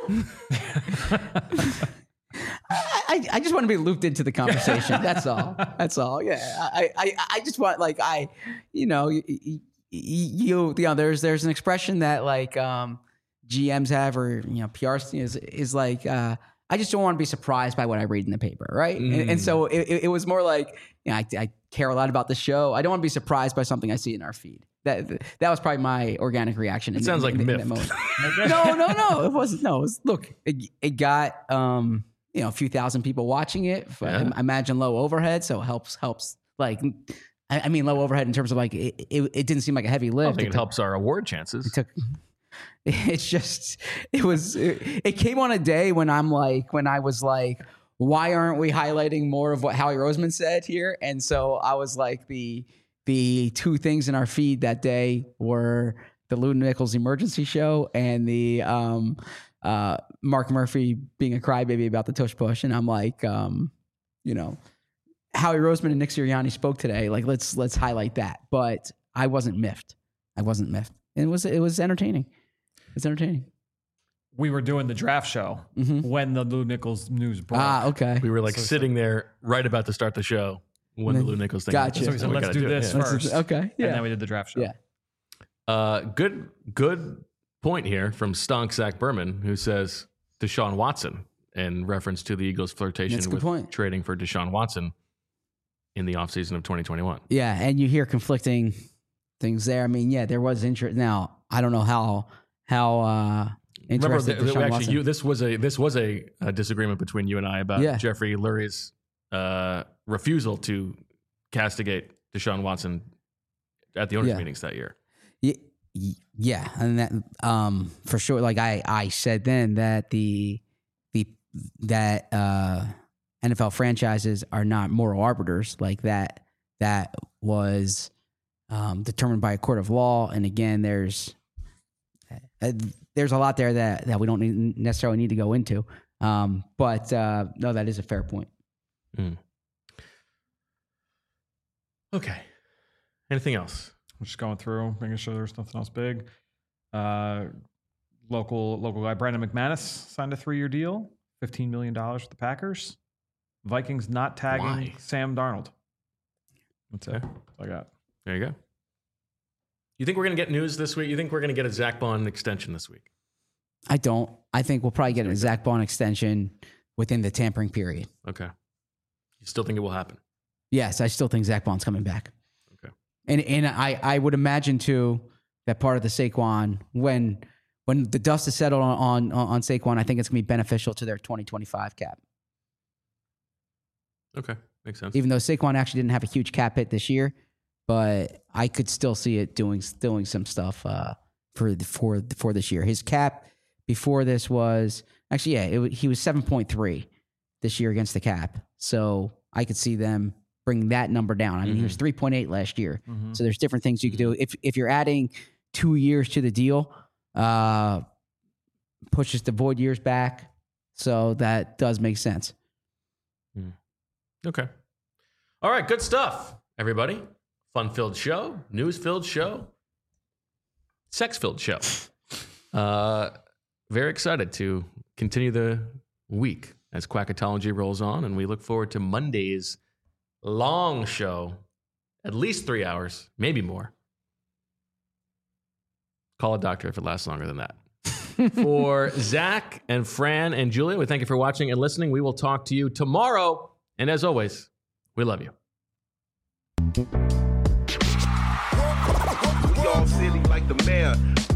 I, I, I just want to be looped into the conversation. That's all. That's all. Yeah. I, I, I just want like I, you know, you, you, you know, there's there's an expression that like um, G Ms have or you know P R is is like uh, I just don't want to be surprised by what I read in the paper, right? Mm. And, and so it, it was more like you know, I, I care a lot about the show. I don't want to be surprised by something I see in our feed. That that was probably my organic reaction.
It
in,
sounds
in,
like
in,
miffed.
in that moment. no, no, no. It wasn't. No, it was, look, it, it got um, you know a few thousand people watching it.
Yeah.
I imagine low overhead, so it helps helps like. I, I mean, low overhead in terms of like it, it, it didn't seem like a heavy
I
lift.
think it,
it took,
helps our award chances.
It took. It's just it was it, it came on a day when I'm like when I was like, why aren't we highlighting more of what Howie Roseman said here? And so I was like the. The two things in our feed that day were the Lou Nichols emergency show and the um, uh, Mark Murphy being a crybaby about the tush push. And I'm like, um, you know, Howie Roseman and Nick Sirianni spoke today. Like, let's let's highlight that. But I wasn't miffed. I wasn't miffed. And it was it was entertaining. It's entertaining.
We were doing the draft show
Mm-hmm.
when the Lou Nichols news broke.
Ah, okay.
We were like
So-
sitting there right about to start the show when the Lou Nichols thing.
Gotcha.
So we said,
We
let's
gotta
do
it,
this
yeah.
Let's
first.
just- okay.
And
Yeah.
then we did the draft show.
Yeah.
Uh, good, good point here from Stonk Zach Berman, who says Deshaun Watson in reference to the Eagles' flirtation
That's a good
with
point.
trading for Deshaun Watson in the offseason of twenty twenty-one.
Yeah, and you hear conflicting things there. I mean, yeah, there was interest. Now, I don't know how how uh, interested
Remember,
in Deshaun
actually,
Watson.
you, this was a this was a, a disagreement between you and I about
Yeah.
Jeffrey Lurie's uh, refusal to castigate Deshaun Watson at the owners'
Yeah.
meetings that year.
Yeah, yeah, and that um for sure. Like I, I said then that the the that uh, N F L franchises are not moral arbiters. Like that that was um, determined by a court of law. And again, there's uh, there's a lot there that that we don't need, necessarily need to go into. Um, but uh, no, that is a fair point.
Mm. Okay. Anything else?
I'm just going through, making sure there's nothing else big. Uh, local local guy Brandon McManus signed a three-year deal, fifteen million dollars with the Packers. Vikings not tagging
Why?
Sam Darnold. That's it.
Okay.
That's all I got.
There you go. You think we're going to get news this week? You think we're going to get a Zach Bond extension this week?
I don't. I think we'll probably get a Zach Bond extension within the tampering period.
Okay. You still think it will happen?
Yes, I still think Zach Bond's coming back.
Okay.
And and I, I would imagine too that part of the Saquon when when the dust is settled on on, on Saquon, I think it's gonna be beneficial to their twenty twenty-five cap.
Okay. Makes sense.
Even though Saquon actually didn't have a huge cap hit this year, but I could still see it doing doing some stuff uh, for for for this year. His cap before this was actually yeah, it, wa- he was seven point three this year against the cap. So I could see them bring that number down. I mean, he was three point eight last year.
Mhm.
So there's different things you could do. If if you're adding two years to the deal, uh, pushes the void years back. So that does make sense.
Okay. All right. Good stuff, everybody. Fun-filled show, news-filled show, sex-filled show. Uh, very excited to continue the week as Quackatology rolls on, and we look forward to Monday's long show, at least three hours, maybe more. Call a doctor if it lasts longer than that. For Zach and Fran and Julia, we thank you for watching and listening. We will talk to you tomorrow. And as always, we love you.
We all silly like the mayor.